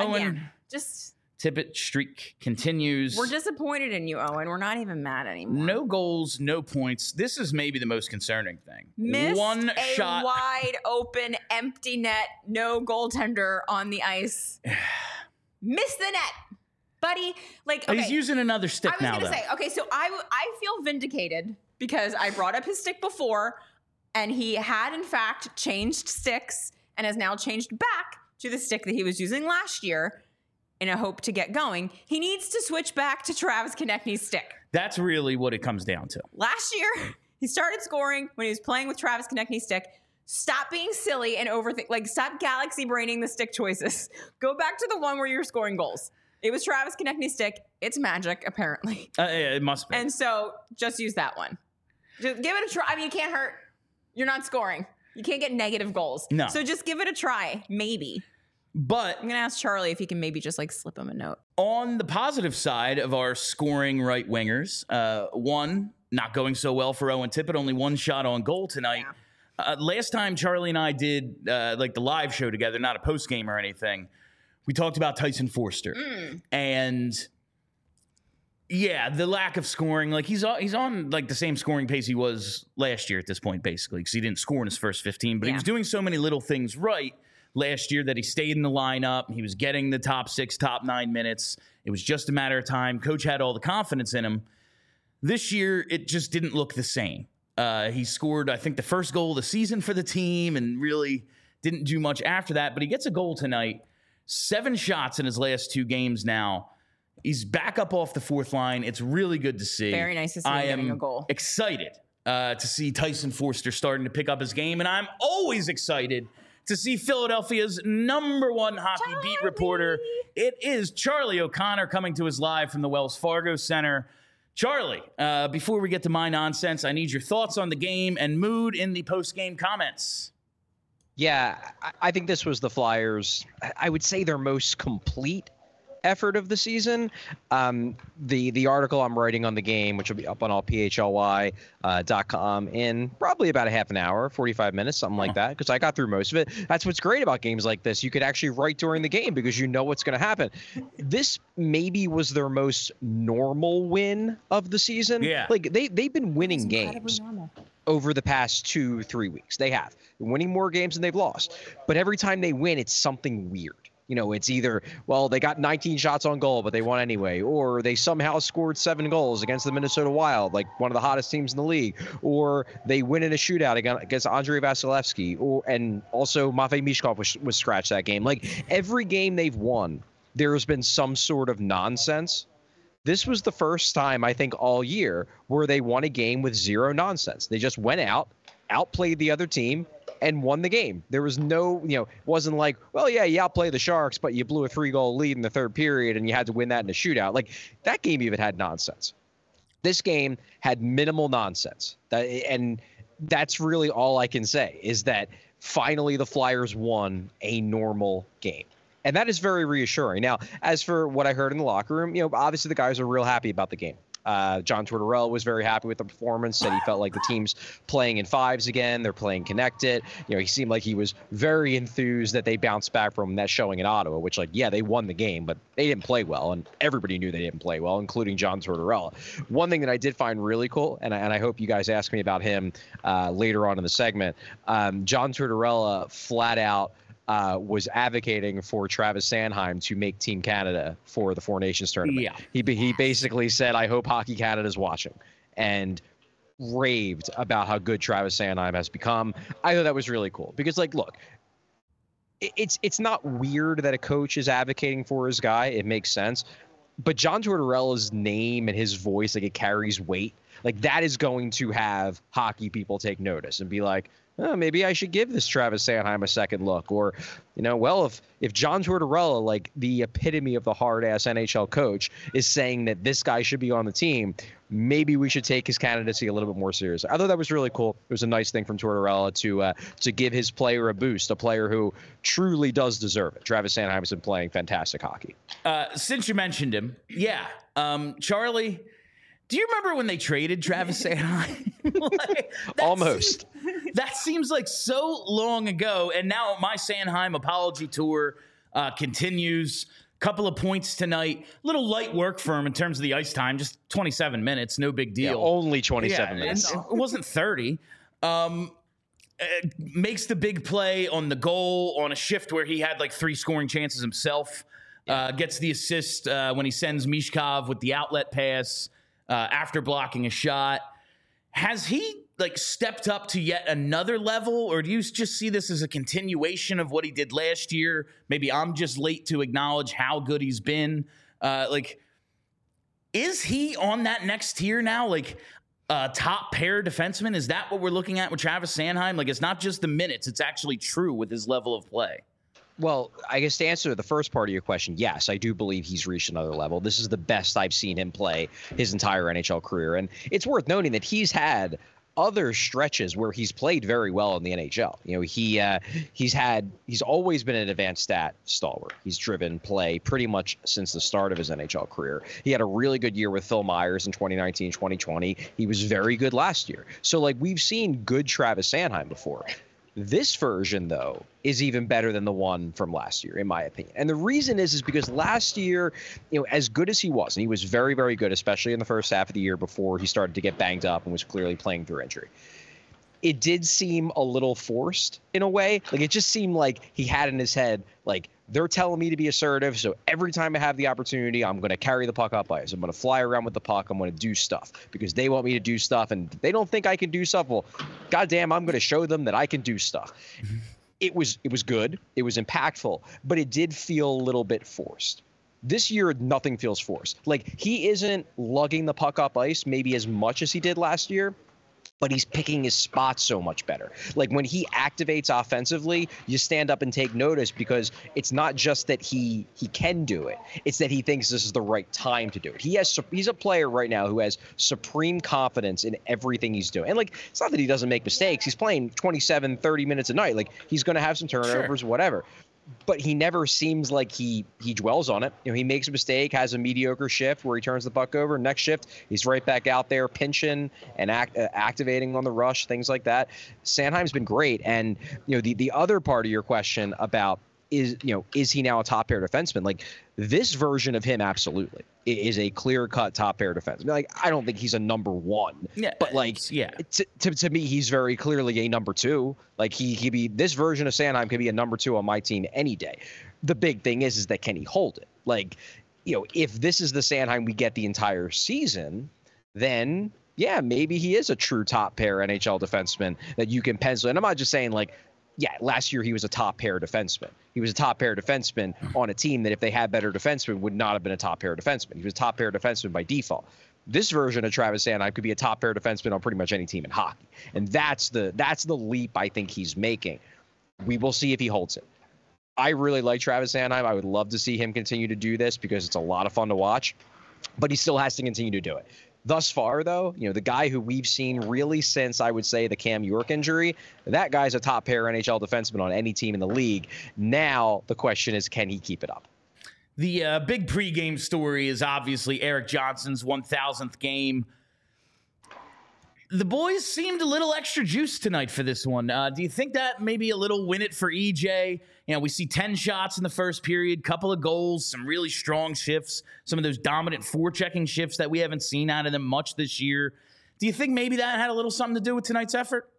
Just Tippett streak continues. we're disappointed in you, Owen. We're not even mad anymore. No goals, no points. This is maybe the most concerning thing. Missed One a shot. wide open empty net, no goaltender on the ice. Missed the net, buddy. Like okay, He's using another stick I was now, gonna though. say okay. So I feel vindicated because I brought up his stick before, and he had in fact changed sticks and has now changed back to the stick that he was using last year in a hope to get going. He needs to switch back to Travis Konechny's stick. That's really what it comes down to. Last year, he started scoring when he was playing with Travis Konechny's stick. Stop being silly and overthink. Like, stop galaxy braining the stick choices. Go back to the one where you're scoring goals. It was Travis Konechny's stick. It's magic, apparently. Yeah, it must be. And so just use that one. Just give it a try. I mean, it can't hurt. You're not scoring. You can't get negative goals. No. So just give it a try. Maybe. But I'm going to ask Charlie if he can maybe just like slip him a note. on the positive side of our scoring right wingers, one, not going so well for Owen Tippett, only one shot on goal tonight. Last time Charlie and I did like the live show together, not a post game or anything, we talked about Tyson Forster. And yeah, the lack of scoring, like he's on like the same scoring pace he was last year at this point, basically, because he didn't score in his first 15, but he was doing so many little things right last year that he stayed in the lineup. He was getting the top 6, top 9 minutes. It was just a matter of time. Coach had all the confidence in him. This year, it just didn't look the same. He scored, I think, the first goal of the season for the team and really didn't do much after that. But he gets a goal tonight 7 shots in his last 2 games now. He's back up off the 4th line. It's really good to see. Very nice to see him getting a goal. Excited to see Tyson Forster starting to pick up his game, and I'm always excited to see Philadelphia's #1 hockey beat reporter. It is Charlie O'Connor coming to us live from the Wells Fargo Center. Charlie, before we get to my nonsense, I need your thoughts on the game and mood in the post-game comments. Yeah, I think this was the Flyers, I would say, their most complete effort of the season. The article I'm writing on the game, which will be up on allphly.com in probably about a half an hour, 45 minutes, something like that, because I got through most of it. That's what's great about games like this. You could actually write during the game because you know what's going to happen. This maybe was their most normal win of the season. Yeah. Like they've been winning games over the past 2-3 weeks. They have. They're winning more games than they've lost. But every time they win, it's something weird. You know, it's either, well, they got 19 shots on goal, but they won anyway, or they somehow scored 7 goals against the Minnesota Wild, like one of the hottest teams in the league, or they win in a shootout against Andrei Vasilevsky, and also Matvei Michkov was scratched that game. Like, every game they've won, there has been some sort of nonsense. This was the first time, I think, all year where they won a game with zero nonsense. They just went out, outplayed the other team, and won the game. There was no, it wasn't like, well, yeah, you outplayed the Sharks, but you blew a 3-goal lead in the 3rd period and you had to win that in a shootout. Like, that game even had nonsense. This game had minimal nonsense. And that's really all I can say, is that finally the Flyers won a normal game. And that is very reassuring. Now, as for what I heard in the locker room, obviously the guys are real happy about the game. John Tortorella was very happy with the performance, said he felt like the team's playing in 5s again. They're playing connected. He seemed like he was very enthused that they bounced back from that showing in Ottawa, which, they won the game, but they didn't play well. And everybody knew they didn't play well, including John Tortorella. One thing that I did find really cool, and I hope you guys ask me about him later on in the segment, John Tortorella flat out was advocating for Travis Sanheim to make Team Canada for the Four Nations tournament. Yeah. He basically said, I hope Hockey Canada's watching, and raved about how good Travis Sanheim has become. I thought that was really cool because, look, it's not weird that a coach is advocating for his guy. It makes sense. But John Tortorella's name and his voice, it carries weight. That is going to have hockey people take notice and be like, oh, maybe I should give this Travis Sanheim a second look. Or, if John Tortorella, the epitome of the hard-ass NHL coach, is saying that this guy should be on the team, maybe we should take his candidacy a little bit more seriously. I thought that was really cool. It was a nice thing from Tortorella to give his player a boost, a player who truly does deserve it. Travis Sanheim has been playing fantastic hockey. Since you mentioned him, Charlie, do you remember when they traded Travis Sanheim? Almost. That seems like so long ago. And now my Sanheim apology tour continues. Couple of points tonight. Little light work for him in terms of the ice time. Just 27 minutes. No big deal. Yeah, only 27 minutes. It wasn't 30. Makes the big play on the goal on a shift where he had 3 scoring chances himself. Gets the assist when he sends Mishkov with the outlet pass after blocking a shot. Has he stepped up to yet another level, or do you just see this as a continuation of what he did last year? Maybe I'm just late to acknowledge how good he's been. Is he on that next tier now? Top pair defenseman? Is that what we're looking at with Travis Sanheim? It's not just the minutes. It's actually true with his level of play. Well, I guess to answer the first part of your question, yes, I do believe he's reached another level. This is the best I've seen him play his entire NHL career. And it's worth noting that he's had other stretches where he's played very well in the NHL. He's always been an advanced stat stalwart. He's driven play pretty much since the start of his NHL career. He had a really good year with Phil Myers in 2019, 2020. He was very good last year. So we've seen good Travis Sanheim before. This version, though, is even better than the one from last year, in my opinion. And the reason is because last year, as good as he was, and he was very, very good, especially in the first half of the year before he started to get banged up and was clearly playing through injury, it did seem a little forced in a way. It just seemed like he had in his head, they're telling me to be assertive, so every time I have the opportunity, I'm going to carry the puck up ice. I'm going to fly around with the puck. I'm going to do stuff because they want me to do stuff, and they don't think I can do stuff. Well, goddamn, I'm going to show them that I can do stuff. it was good. It was impactful, but it did feel a little bit forced. This year, nothing feels forced. Like, he isn't lugging the puck up ice maybe as much as he did last year, but he's picking his spots so much better. Like, when he activates offensively, you stand up and take notice, because it's not just that he can do it. It's that he thinks this is the right time to do it. He's a player right now who has supreme confidence in everything he's doing. And, like, it's not that he doesn't make mistakes. He's playing 27, 30 minutes a night. Like, he's going to have some turnovers, whatever. But he never seems like he dwells on it. You know, he makes a mistake, has a mediocre shift where he turns the puck over. Next shift, he's right back out there pinching and activating on the rush, things like that. Sanheim's been great. And, you know, the other part of your question about is he now a top pair defenseman? Like, this version of him absolutely is a clear-cut top pair defenseman. Like, I don't think he's a number one, but like, to me, he's very clearly a number two. Like, he could be, this version of Sanheim could be a number two on my team any day. The big thing is that can he hold it? Like, you know, if this is the Sanheim we get the entire season, then yeah, maybe he is a true top pair NHL defenseman that you can pencil. And I'm not just saying, like, yeah, last year he was a top pair defenseman. He was a top pair defenseman on a team that, if they had better defensemen, would not have been a top pair defenseman. He was a top pair defenseman by default. This version of Travis Sanheim could be a top pair defenseman on pretty much any team in hockey. And that's the leap I think he's making. We will see if he holds it. I really like Travis Sanheim. I would love to see him continue to do this, because it's a lot of fun to watch, but he still has to continue to do it. Thus far, though, you know, the guy who we've seen really since, I would say, the Cam York injury, that guy's a top pair NHL defenseman on any team in the league. Now the question is, can he keep it up? The big pregame story is obviously Erik Johnson's 1,000th game. The boys seemed a little extra juiced tonight for this one. Do you think that maybe a little win it for EJ? You know, we see 10 shots in the first period, couple of goals, some really strong shifts, some of those dominant forechecking shifts that we haven't seen out of them much this year. Do you think maybe that had a little something to do with tonight's effort?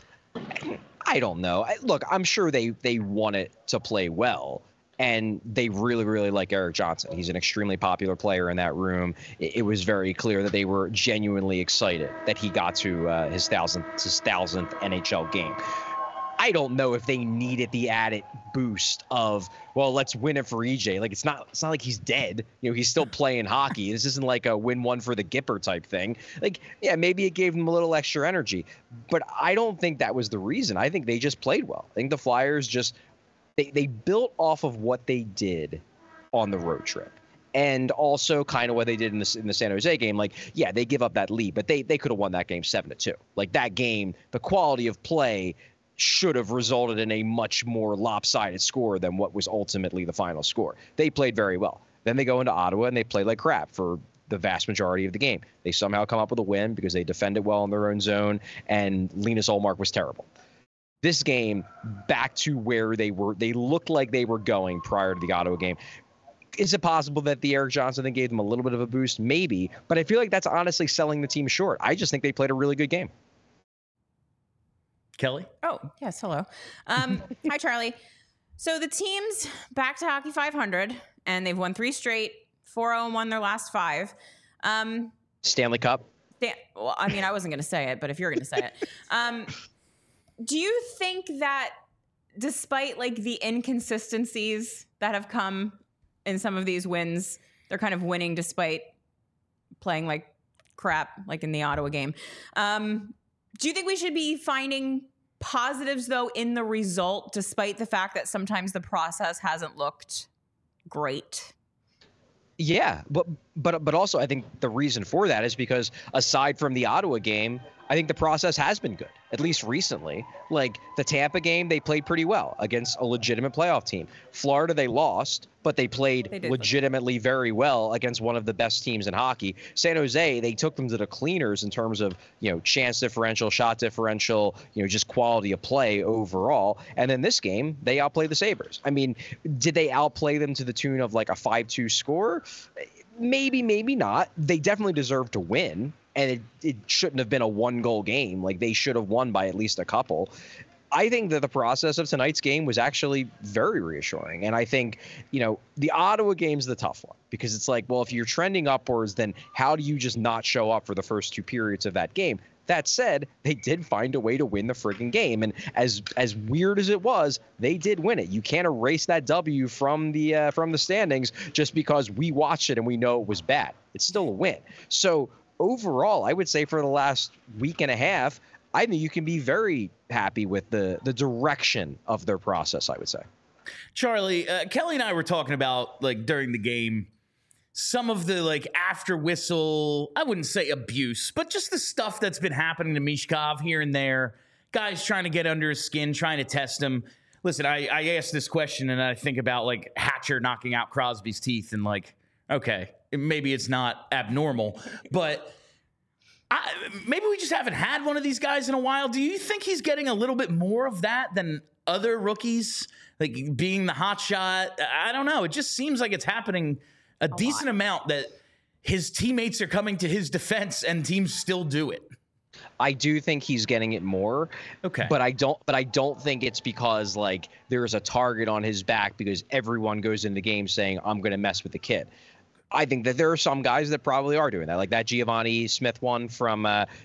I don't know. Look, I'm sure they want it to play well. And they really, really like Erik Johnson. He's an extremely popular player in that room. It was very clear that they were genuinely excited that he got to his thousandth NHL game. I don't know if they needed the added boost of, well, let's win it for EJ. Like, it's not like he's dead. You know, he's still playing hockey. This isn't like a win one for the Gipper type thing. Like, yeah, maybe it gave them a little extra energy, but I don't think that was the reason. I think they just played well. I think the Flyers just, they built off of what they did on the road trip. And also kind of what they did in the San Jose game. Like, yeah, they give up that lead, but they could have won that game 7-2. Like, that game, the quality of play should have resulted in a much more lopsided score than what was ultimately the final score. They played very well. Then they go into Ottawa and they play like crap for the vast majority of the game. They somehow come up with a win because they defended well in their own zone, and Linus Ullmark was terrible. This game, back to where they looked like they were going prior to the Ottawa game. Is it possible that the Erik Johnson thing gave them a little bit of a boost? Maybe, but I feel like that's honestly selling the team short. I just think they played a really good game. Kelly? Oh, yes. Hello. Hi, Charlie. So the team's back to Hockey 500, and they've won 3 straight, 4-0-1 their last 5. Stanley Cup? Well, I mean, I wasn't going to say it, but if you're going to say it. Do you think that despite, like, the inconsistencies that have come in some of these wins, they're kind of winning despite playing like crap, like in the Ottawa game? Do you think we should be finding positives, though, in the result, despite the fact that sometimes the process hasn't looked great? Yeah, but also I think the reason for that is because aside from the Ottawa game, I think the process has been good, at least recently. Like the Tampa game, they played pretty well against a legitimate playoff team. Florida, they lost, but they played legitimately very well against one of the best teams in hockey. San Jose, they took them to the cleaners in terms of, you know, chance differential, shot differential, you know, just quality of play overall. And then this game, they outplayed the Sabres. I mean, did they outplay them to the tune of like a 5-2 score? Maybe, maybe not. They definitely deserve to win. And it shouldn't have been a 1-goal game. Like, they should have won by at least a couple. I think that the process of tonight's game was actually very reassuring. And I think, you know, the Ottawa game's the tough one because it's like, well, if you're trending upwards, then how do you just not show up for the first 2 periods of that game? That said, they did find a way to win the friggin' game. And as weird as it was, they did win it. You can't erase that W from the standings just because we watched it and we know it was bad. It's still a win. So overall, I would say for the last week and a half, I think you can be very happy with the direction of their process, I would say. Charlie, Kelly and I were talking about, like, during the game, some of the, like, after whistle, I wouldn't say abuse, but just the stuff that's been happening to Michkov here and there. Guys trying to get under his skin, trying to test him. Listen, I asked this question and I think about, like, Hatcher knocking out Crosby's teeth and, like, okay, maybe it's not abnormal, but maybe we just haven't had one of these guys in a while. Do you think he's getting a little bit more of that than other rookies, like being the hot shot? I don't know. It just seems like it's happening a decent amount that his teammates are coming to his defense and teams still do it. I do think he's getting it more. Okay. But I don't think it's because, like, there's a target on his back because everyone goes in the game saying, I'm going to mess with the kid. I think that there are some guys that probably are doing that, like that Giovanni Smith one from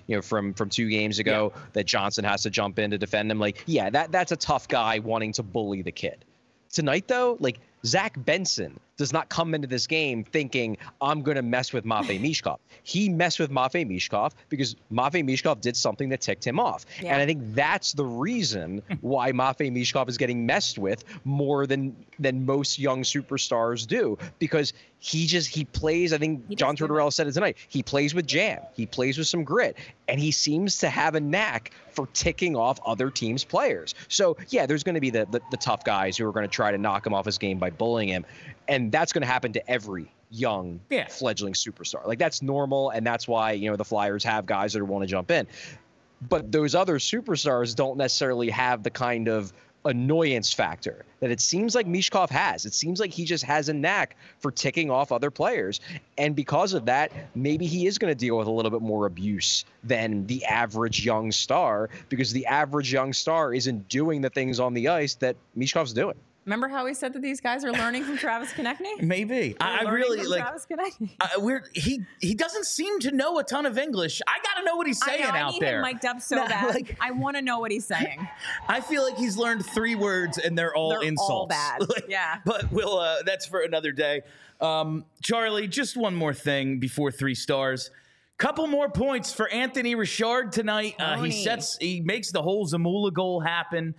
2 games ago that Johnson has to jump in to defend him. Like, yeah, that's a tough guy wanting to bully the kid. Tonight, though, like, Zach Benson does not come into this game thinking, I'm going to mess with Matvei Michkov. He messed with Matvei Michkov because Matvei Michkov did something that ticked him off. Yeah. And I think that's the reason why Matvei Michkov is getting messed with more than most young superstars do, because he plays, I think John Tortorella said it tonight, he plays with jam. He plays with some grit. And he seems to have a knack for ticking off other teams' players. So, yeah, there's going to be the tough guys who are going to try to knock him off his game by bullying him. And that's going to happen to every young fledgling superstar. Like, that's normal, and that's why, the Flyers have guys that want to jump in. But those other superstars don't necessarily have the kind of annoyance factor that it seems like Michkov has. It seems like he just has a knack for ticking off other players. And because of that, maybe he is going to deal with a little bit more abuse than the average young star, because the average young star isn't doing the things on the ice that Michkov's doing. Remember how we said that these guys are learning from Travis Konechny? Maybe. I really like. Travis Konechny. He doesn't seem to know a ton of English. I got to know what he's saying out there. I need him mic'd up so bad. Like, I want to know what he's saying. I feel like he's learned 3 words and they're all insults. All bad. Yeah. But that's for another day. Charlie, just one more thing before 3 stars. Couple more points for Anthony Richard tonight. He makes the whole Zamula goal happen.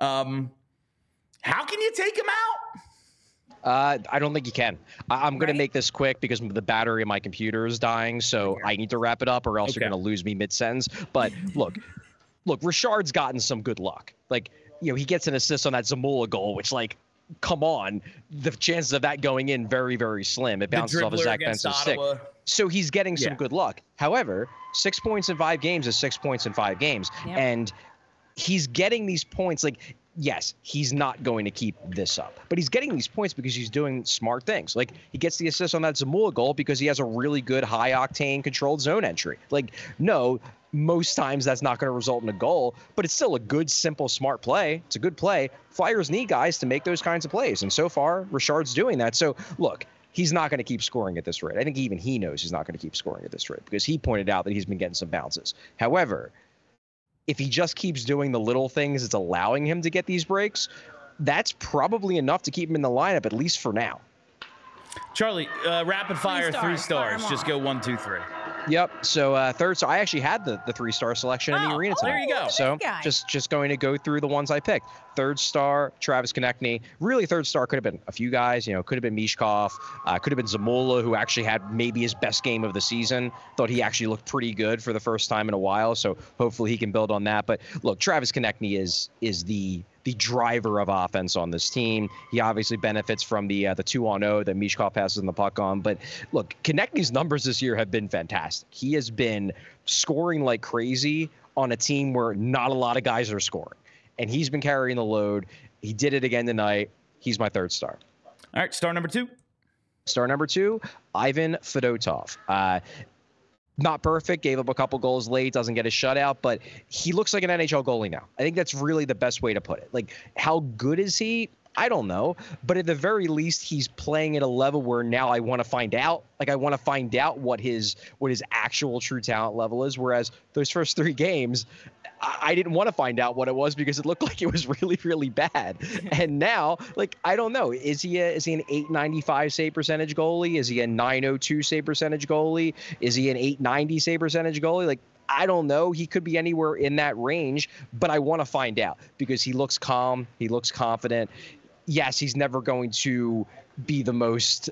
How can you take him out? I don't think you can. I'm going to make this quick because the battery in my computer is dying, so I need to wrap it up or else you're going to lose me mid-sentence. But look, Richard's gotten some good luck. Like, he gets an assist on that Zamula goal, which, like, come on, the chances of that going in very, very slim. It bounces off of Zach Benson's stick. So he's getting some good luck. However, 6 points in 5 games is 6 points in 5 games. Yep. And he's getting these points, like, yes, he's not going to keep this up, but he's getting these points because he's doing smart things. Like, he gets the assist on that Zamula goal because he has a really good high-octane controlled zone entry. Like, no, most times that's not going to result in a goal, but it's still a good, simple, smart play. It's a good play. Flyers need guys to make those kinds of plays, and so far, Richard's doing that. So, look, he's not going to keep scoring at this rate. I think even he knows he's not going to keep scoring at this rate because he pointed out that he's been getting some bounces. However, if he just keeps doing the little things that's allowing him to get these breaks, that's probably enough to keep him in the lineup, at least for now. Charlie, rapid fire, 3 stars. Just go 1, 2, 3. Yep. So third. So I actually had the 3-star selection in the arena tonight. There you go. So just going to go through the ones I picked. 3rd star, Travis Konechny. Really, 3rd star could have been a few guys. Could have been Michkov. Could have been Zamula, who actually had maybe his best game of the season. Thought he actually looked pretty good for the first time in a while. So hopefully he can build on that. But look, Travis Konechny is the driver of offense on this team. He obviously benefits from the 2-on-0 that Michkov passes the puck on. But look, Konechny's numbers this year have been fantastic. He has been scoring like crazy on a team where not a lot of guys are scoring. And he's been carrying the load. He did it again tonight. He's my 3rd star. All right, star number 2. Star number 2, Ivan Fedotov. Not perfect, gave up a couple goals late, doesn't get a shutout, but he looks like an NHL goalie now. I think that's really the best way to put it. Like, how good is he? I don't know, but at the very least, he's playing at a level where now I want to find out. Like I want to find out what his actual true talent level is. Whereas those first 3 games, I didn't want to find out what it was because it looked like it was really, really bad. And now, like, I don't know. Is he an 895 save percentage goalie? Is he a 902 save percentage goalie? Is he an 890 save percentage goalie? Like, I don't know. He could be anywhere in that range, but I want to find out because he looks calm. He looks confident. Yes, he's never going to be the most,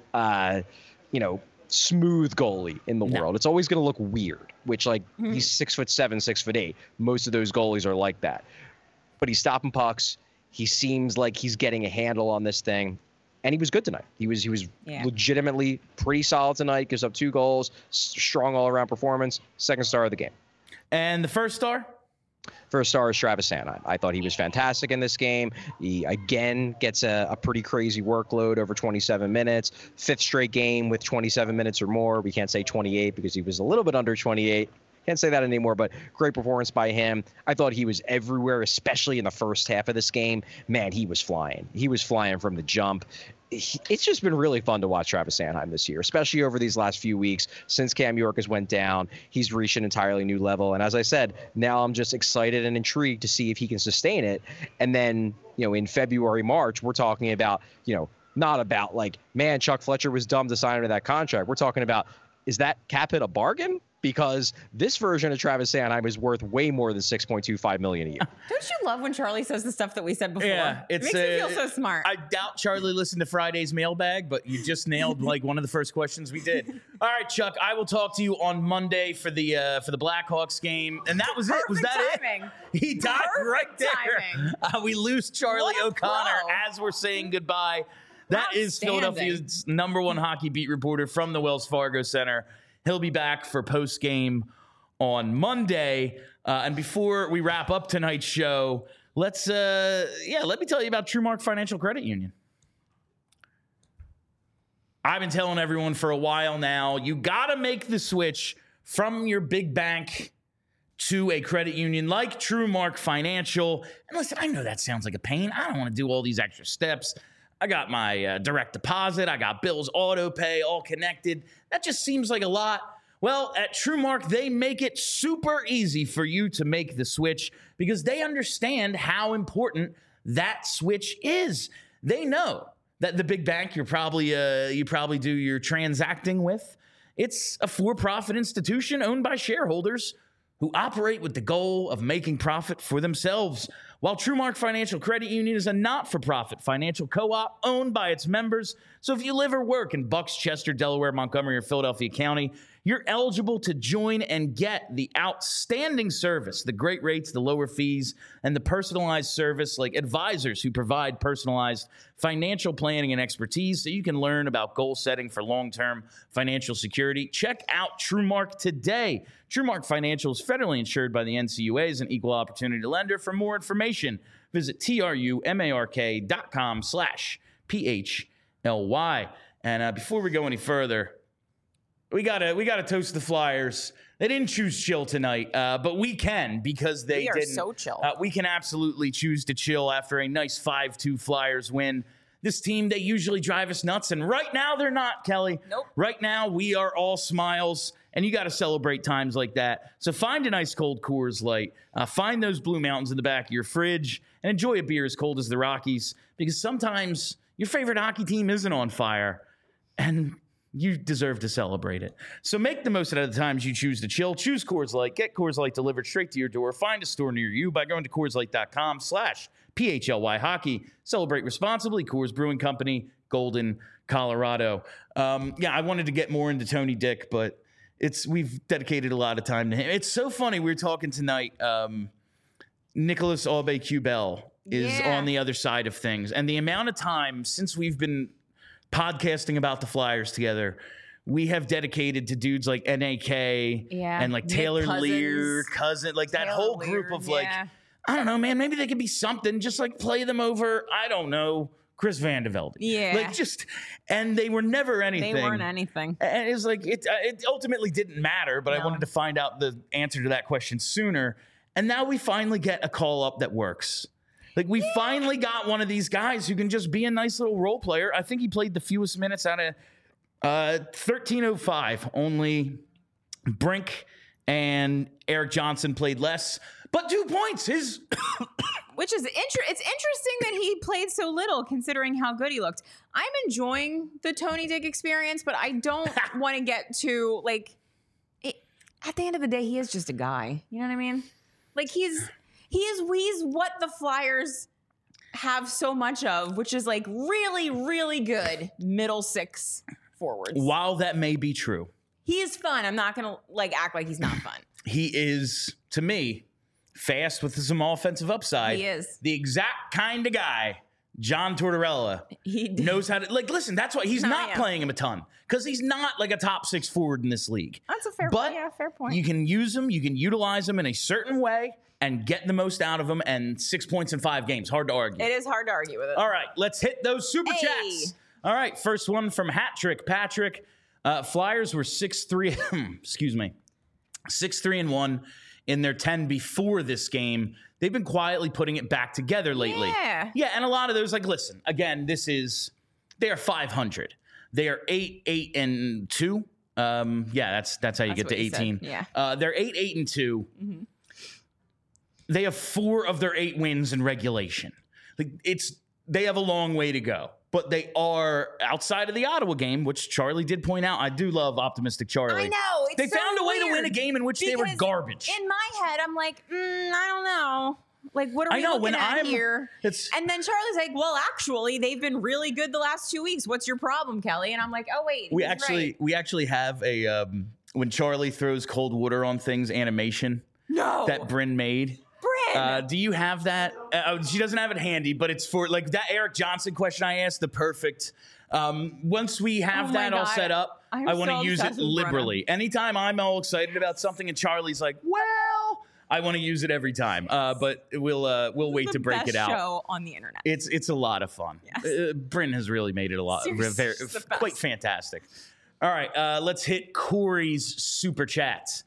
smooth goalie in the world. It's always going to look weird, which he's 6'7", 6'8". Most of those goalies are like that, but he's stopping pucks. He seems like he's getting a handle on this thing, and he was good tonight. He was legitimately pretty solid tonight. Gives up 2 goals, strong all around performance. Second star of the game. And the first star? First star is Travis Sanheim. I thought he was fantastic in this game. He, again, gets a pretty crazy workload over 27 minutes. 5th straight game with 27 minutes or more. We can't say 28 because he was a little bit under 28. Can't say that anymore, but great performance by him. I thought he was everywhere, especially in the first half of this game. Man, he was flying. He was flying from the jump. It's just been really fun to watch Travis Sanheim this year, especially over these last few weeks since Cam York has went down. He's reached an entirely new level. And as I said, now I'm just excited and intrigued to see if he can sustain it. And then, in February, March, we're talking about, not about man, Chuck Fletcher was dumb to sign into that contract. We're talking about, is that cap hit a bargain? Because this version of Travis Sanheim is worth way more than $6.25 million a year. Don't you love when Charlie says the stuff that we said before? Yeah, it makes me feel so smart. I doubt Charlie listened to Friday's mailbag, but you just nailed one of the first questions we did. All right, Chuck, I will talk to you on Monday for the Blackhawks game, and that was it. Was that timing. It? He died right there. We lose Charlie O'Connor as we're saying goodbye. That is Philadelphia's #1 hockey beat reporter from the Wells Fargo Center. He'll be back for post-game on Monday. And before we wrap up tonight's show, let me tell you about TrueMark Financial Credit Union. I've been telling everyone for a while now, you got to make the switch from your big bank to a credit union like TrueMark Financial. And listen, I know that sounds like a pain. I don't want to do all these extra steps. I got my direct deposit. I got Bill's auto pay all connected. That just seems like a lot. Well, at TrueMark, they make it super easy for you to make the switch because they understand how important that switch is. They know that the big bank you probably do your transacting with, it's a for-profit institution owned by shareholders who operate with the goal of making profit for themselves. While TrueMark Financial Credit Union is a not-for-profit financial co-op owned by its members, so if you live or work in Bucks, Chester, Delaware, Montgomery, or Philadelphia County, you're eligible to join and get the outstanding service, the great rates, the lower fees, and the personalized service like advisors who provide personalized financial planning and expertise so you can learn about goal setting for long-term financial security. Check out TrueMark today. TrueMark Financial is federally insured by the NCUA as an equal opportunity lender. For more information, visit trumark.com/PHLY. And before we go any further, we gotta toast the Flyers. They didn't choose chill tonight, but we can because they didn't. We are so chill. We can absolutely choose to chill after a nice 5-2 Flyers win. This team, they usually drive us nuts, and right now they're not, Kelly. Nope. Right now we are all smiles, and you got to celebrate times like that. So find an ice cold Coors Light, find those Blue Mountains in the back of your fridge, and enjoy a beer as cold as the Rockies, because sometimes your favorite hockey team isn't on fire, and you deserve to celebrate it. So make the most out of the times you choose to chill. Choose Coors Light. Get Coors Light delivered straight to your door. Find a store near you by going to CoorsLight.com/PHLY hockey. Celebrate responsibly. Coors Brewing Company, Golden, Colorado. I wanted to get more into Tony Dick, but we've dedicated a lot of time to him. It's so funny. We were talking tonight. Nicholas Aube-Kubel is on the other side of things. And the amount of time since we've been podcasting about the Flyers together, we have dedicated to dudes like NAK and like Taylor Lear, Cousin, like that whole group of I don't know, man, maybe they could be something, just like play them over, I don't know, Chris Van de Velde. Yeah. And they were never anything. They weren't anything. And it was it ultimately didn't matter, but I wanted to find out the answer to that question sooner. And now we finally get a call up that works. Like, we finally got one of these guys who can just be a nice little role player. I think he played the fewest minutes out of 1305. Only Brink and Eric Johnson played less, but 2 points. Which is it's interesting that he played so little considering how good he looked. I'm enjoying the Tony Dick experience, but I don't want to get to at the end of the day, he is just a guy. You know what I mean? Like he's what the Flyers have so much of, which is like really, really good middle six forwards. While that may be true, he is fun. I'm not gonna act like he's not fun. He is, to me, fast with some offensive upside. He is the exact kind of guy John Tortorella knows how to listen. That's why he's not playing him a ton, because he's not like a top 6 forward in this league. That's a fair point. Yeah, fair point. You can use him, you can utilize him in a certain way and get the most out of him. And 6 points in 5 games, hard to argue. It is hard to argue with it. All right, let's hit those super chats. All right, first one from Hat Trick Patrick. Flyers were 6-3. Excuse me, 6-3-1 in their 10 before this game. They've been quietly putting it back together lately. Yeah, and a lot of those, listen, again, they are 500. They are 8-2. That's how you get to 18. Yeah. They're 8-2. Mm-hmm. They have 4 of their 8 wins in regulation. They have a long way to go. But they are outside of the Ottawa game, which Charlie did point out. I do love optimistic Charlie. I know. They found a way to win a game in which they were garbage. In my head, I'm like, I don't know. Like, what are we looking at here? And then Charlie's like, well, actually, they've been really good the last 2 weeks. What's your problem, Kelly? And I'm like, oh, wait. We actually have a when Charlie throws cold water on things animation that Bryn made. Do you have that? She doesn't have it handy, but it's for that Eric Johnson question I asked, the perfect. Once we have that all set up, I want to use it liberally. Anytime I'm all excited about something and Charlie's like, well, I want to use it every time. But we'll wait to break it out. Show on the internet. It's a lot of fun. Yes. Bryn has really made it a lot, quite fantastic. All right, let's hit Corey's super chats.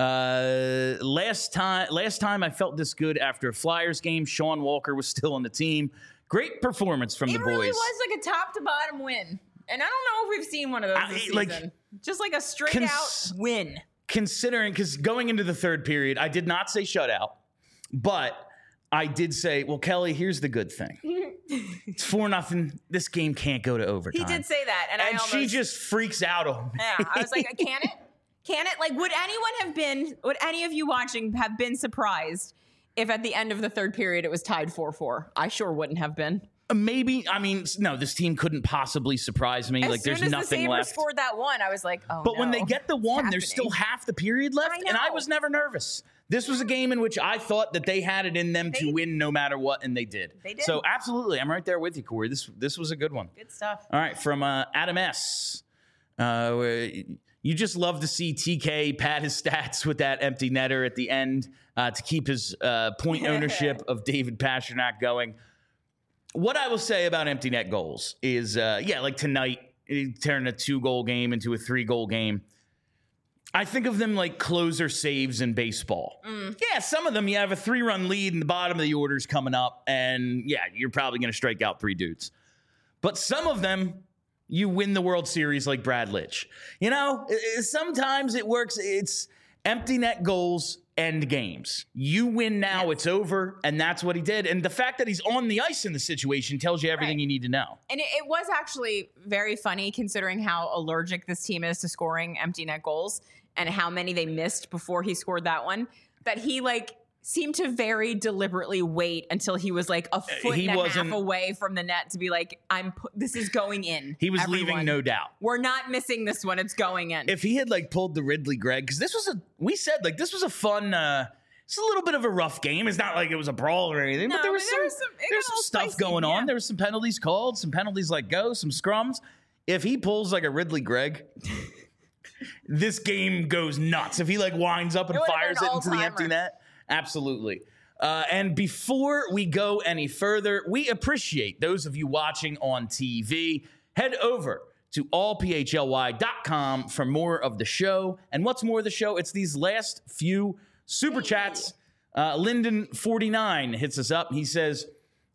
Last time I felt this good after a Flyers game. Sean Walker was still on the team. Great performance from the boys. It really was like a top to bottom win. And I don't know if we've seen one of those this season. Just like a straight out win. Considering, because going into the third period, I did not say shutout, but I did say, well, Kelly, here's the good thing. It's 4-0. This game can't go to overtime. He did say that. And she just freaks out on me. Yeah, I was like, can it? Can it? Would any of you watching have been surprised if at the end of the third period it was tied 4-4? I sure wouldn't have been. Maybe. I mean, no, this team couldn't possibly surprise me. There's nothing left. As soon as the Sabres scored that one, I was like, oh, But when they get the one, there's still half the period left, and I was never nervous. This was a game in which I thought that they had it in them to win no matter what, and they did. They did. So, absolutely, I'm right there with you, Corey. This was a good one. Good stuff. All right, from Adam S. You just love to see TK pad his stats with that empty netter at the end to keep his point ownership of David Pastrnak going. What I will say about empty net goals is, tonight, turning a 2-goal game into a 3-goal game. I think of them like closer saves in baseball. Yeah, some of them you have a 3-run lead and the bottom of the order's coming up, and you're probably going to strike out 3 dudes. But some of them, you win the World Series like Brad Litch. Sometimes it works. It's empty net goals, end games. You win now, it's over, and that's what he did. And the fact that he's on the ice in the situation tells you everything you need to know. And it was actually very funny considering how allergic this team is to scoring empty net goals and how many they missed before he scored that one, that he seemed to very deliberately wait until he was a foot and a half away from the net to be like, this is going in. He was leaving no doubt. We're not missing this one. It's going in. If he had pulled the Ridley Gregg, because this was this was a fun, it's a little bit of a rough game. It's not like it was a brawl or anything, but there was some stuff going on. There was some penalties called, some penalties let go, some scrums. If he pulls a Ridley Gregg, this game goes nuts. If he winds up and fires it into the empty net. Absolutely. And before we go any further, we appreciate those of you watching on TV. Head over to allphly.com for more of the show. And what's more of the show? It's these last few super chats. Lyndon49 hits us up. He says,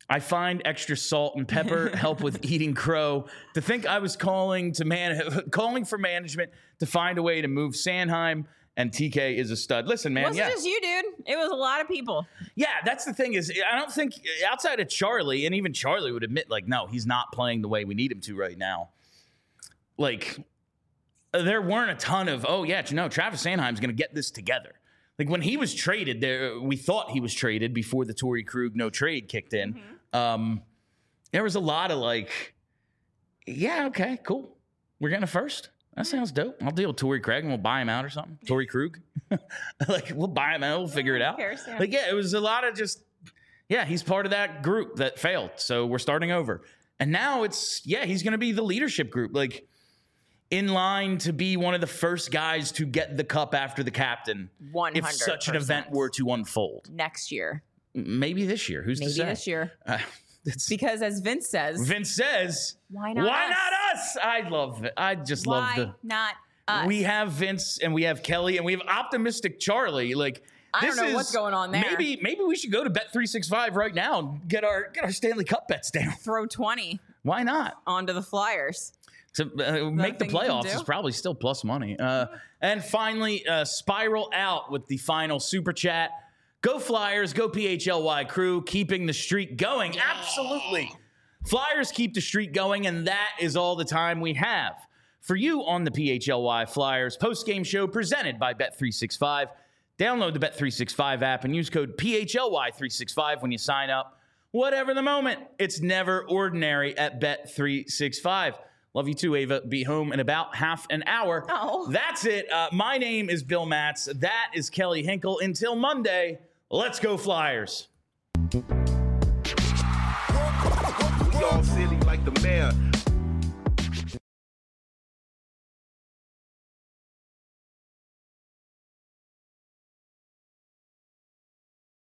I find extra salt and pepper help with eating crow. To think I was calling for management to find a way to move Sanheim, and TK is a stud. Listen, man. It wasn't just you, dude. It was a lot of people. Yeah, that's the thing is, I don't think outside of Charlie, and even Charlie would admit, like, no, he's not playing the way we need him to right now. Like, there weren't a ton of, Travis Sanheim's going to get this together. Like, when he was traded, we thought he was traded before the Torrey Krug no trade kicked in. There was a lot of like, yeah, okay, cool. We're getting a first. That sounds dope. I'll deal with Torrey Craig and we'll buy him out or something. Torrey Krug. Like, we'll buy him out. We'll figure it out. Like, yeah, it was a lot of just, he's part of that group that failed. So we're starting over. And now he's going to be the leadership group. Like, in line to be one of the first guys to get the cup after the captain. 100%. If such an event were to unfold. Next year. Maybe this year. Who's to say? Maybe this year. Because as Vince says, why not us? I love it. I just love Why not us? We have Vince and we have Kelly and we have optimistic Charlie. Like, I don't know what's going on there. Maybe we should go to Bet365 right now and get our Stanley Cup bets down. Throw 20. Why not? Onto the Flyers. To make the playoffs is probably still plus money. And finally, spiral out with the final super chat. Go Flyers, go PHLY crew, keeping the streak going. Yeah. Absolutely. Flyers keep the streak going, and that is all the time we have for you on the PHLY Flyers postgame show presented by Bet365. Download the Bet365 app and use code PHLY365 when you sign up. Whatever the moment, it's never ordinary at Bet365. Love you too, Ava. Be home in about half an hour. Oh. That's it. My name is Bill Matz. That is Kelly Hinkle. Until Monday, let's go Flyers.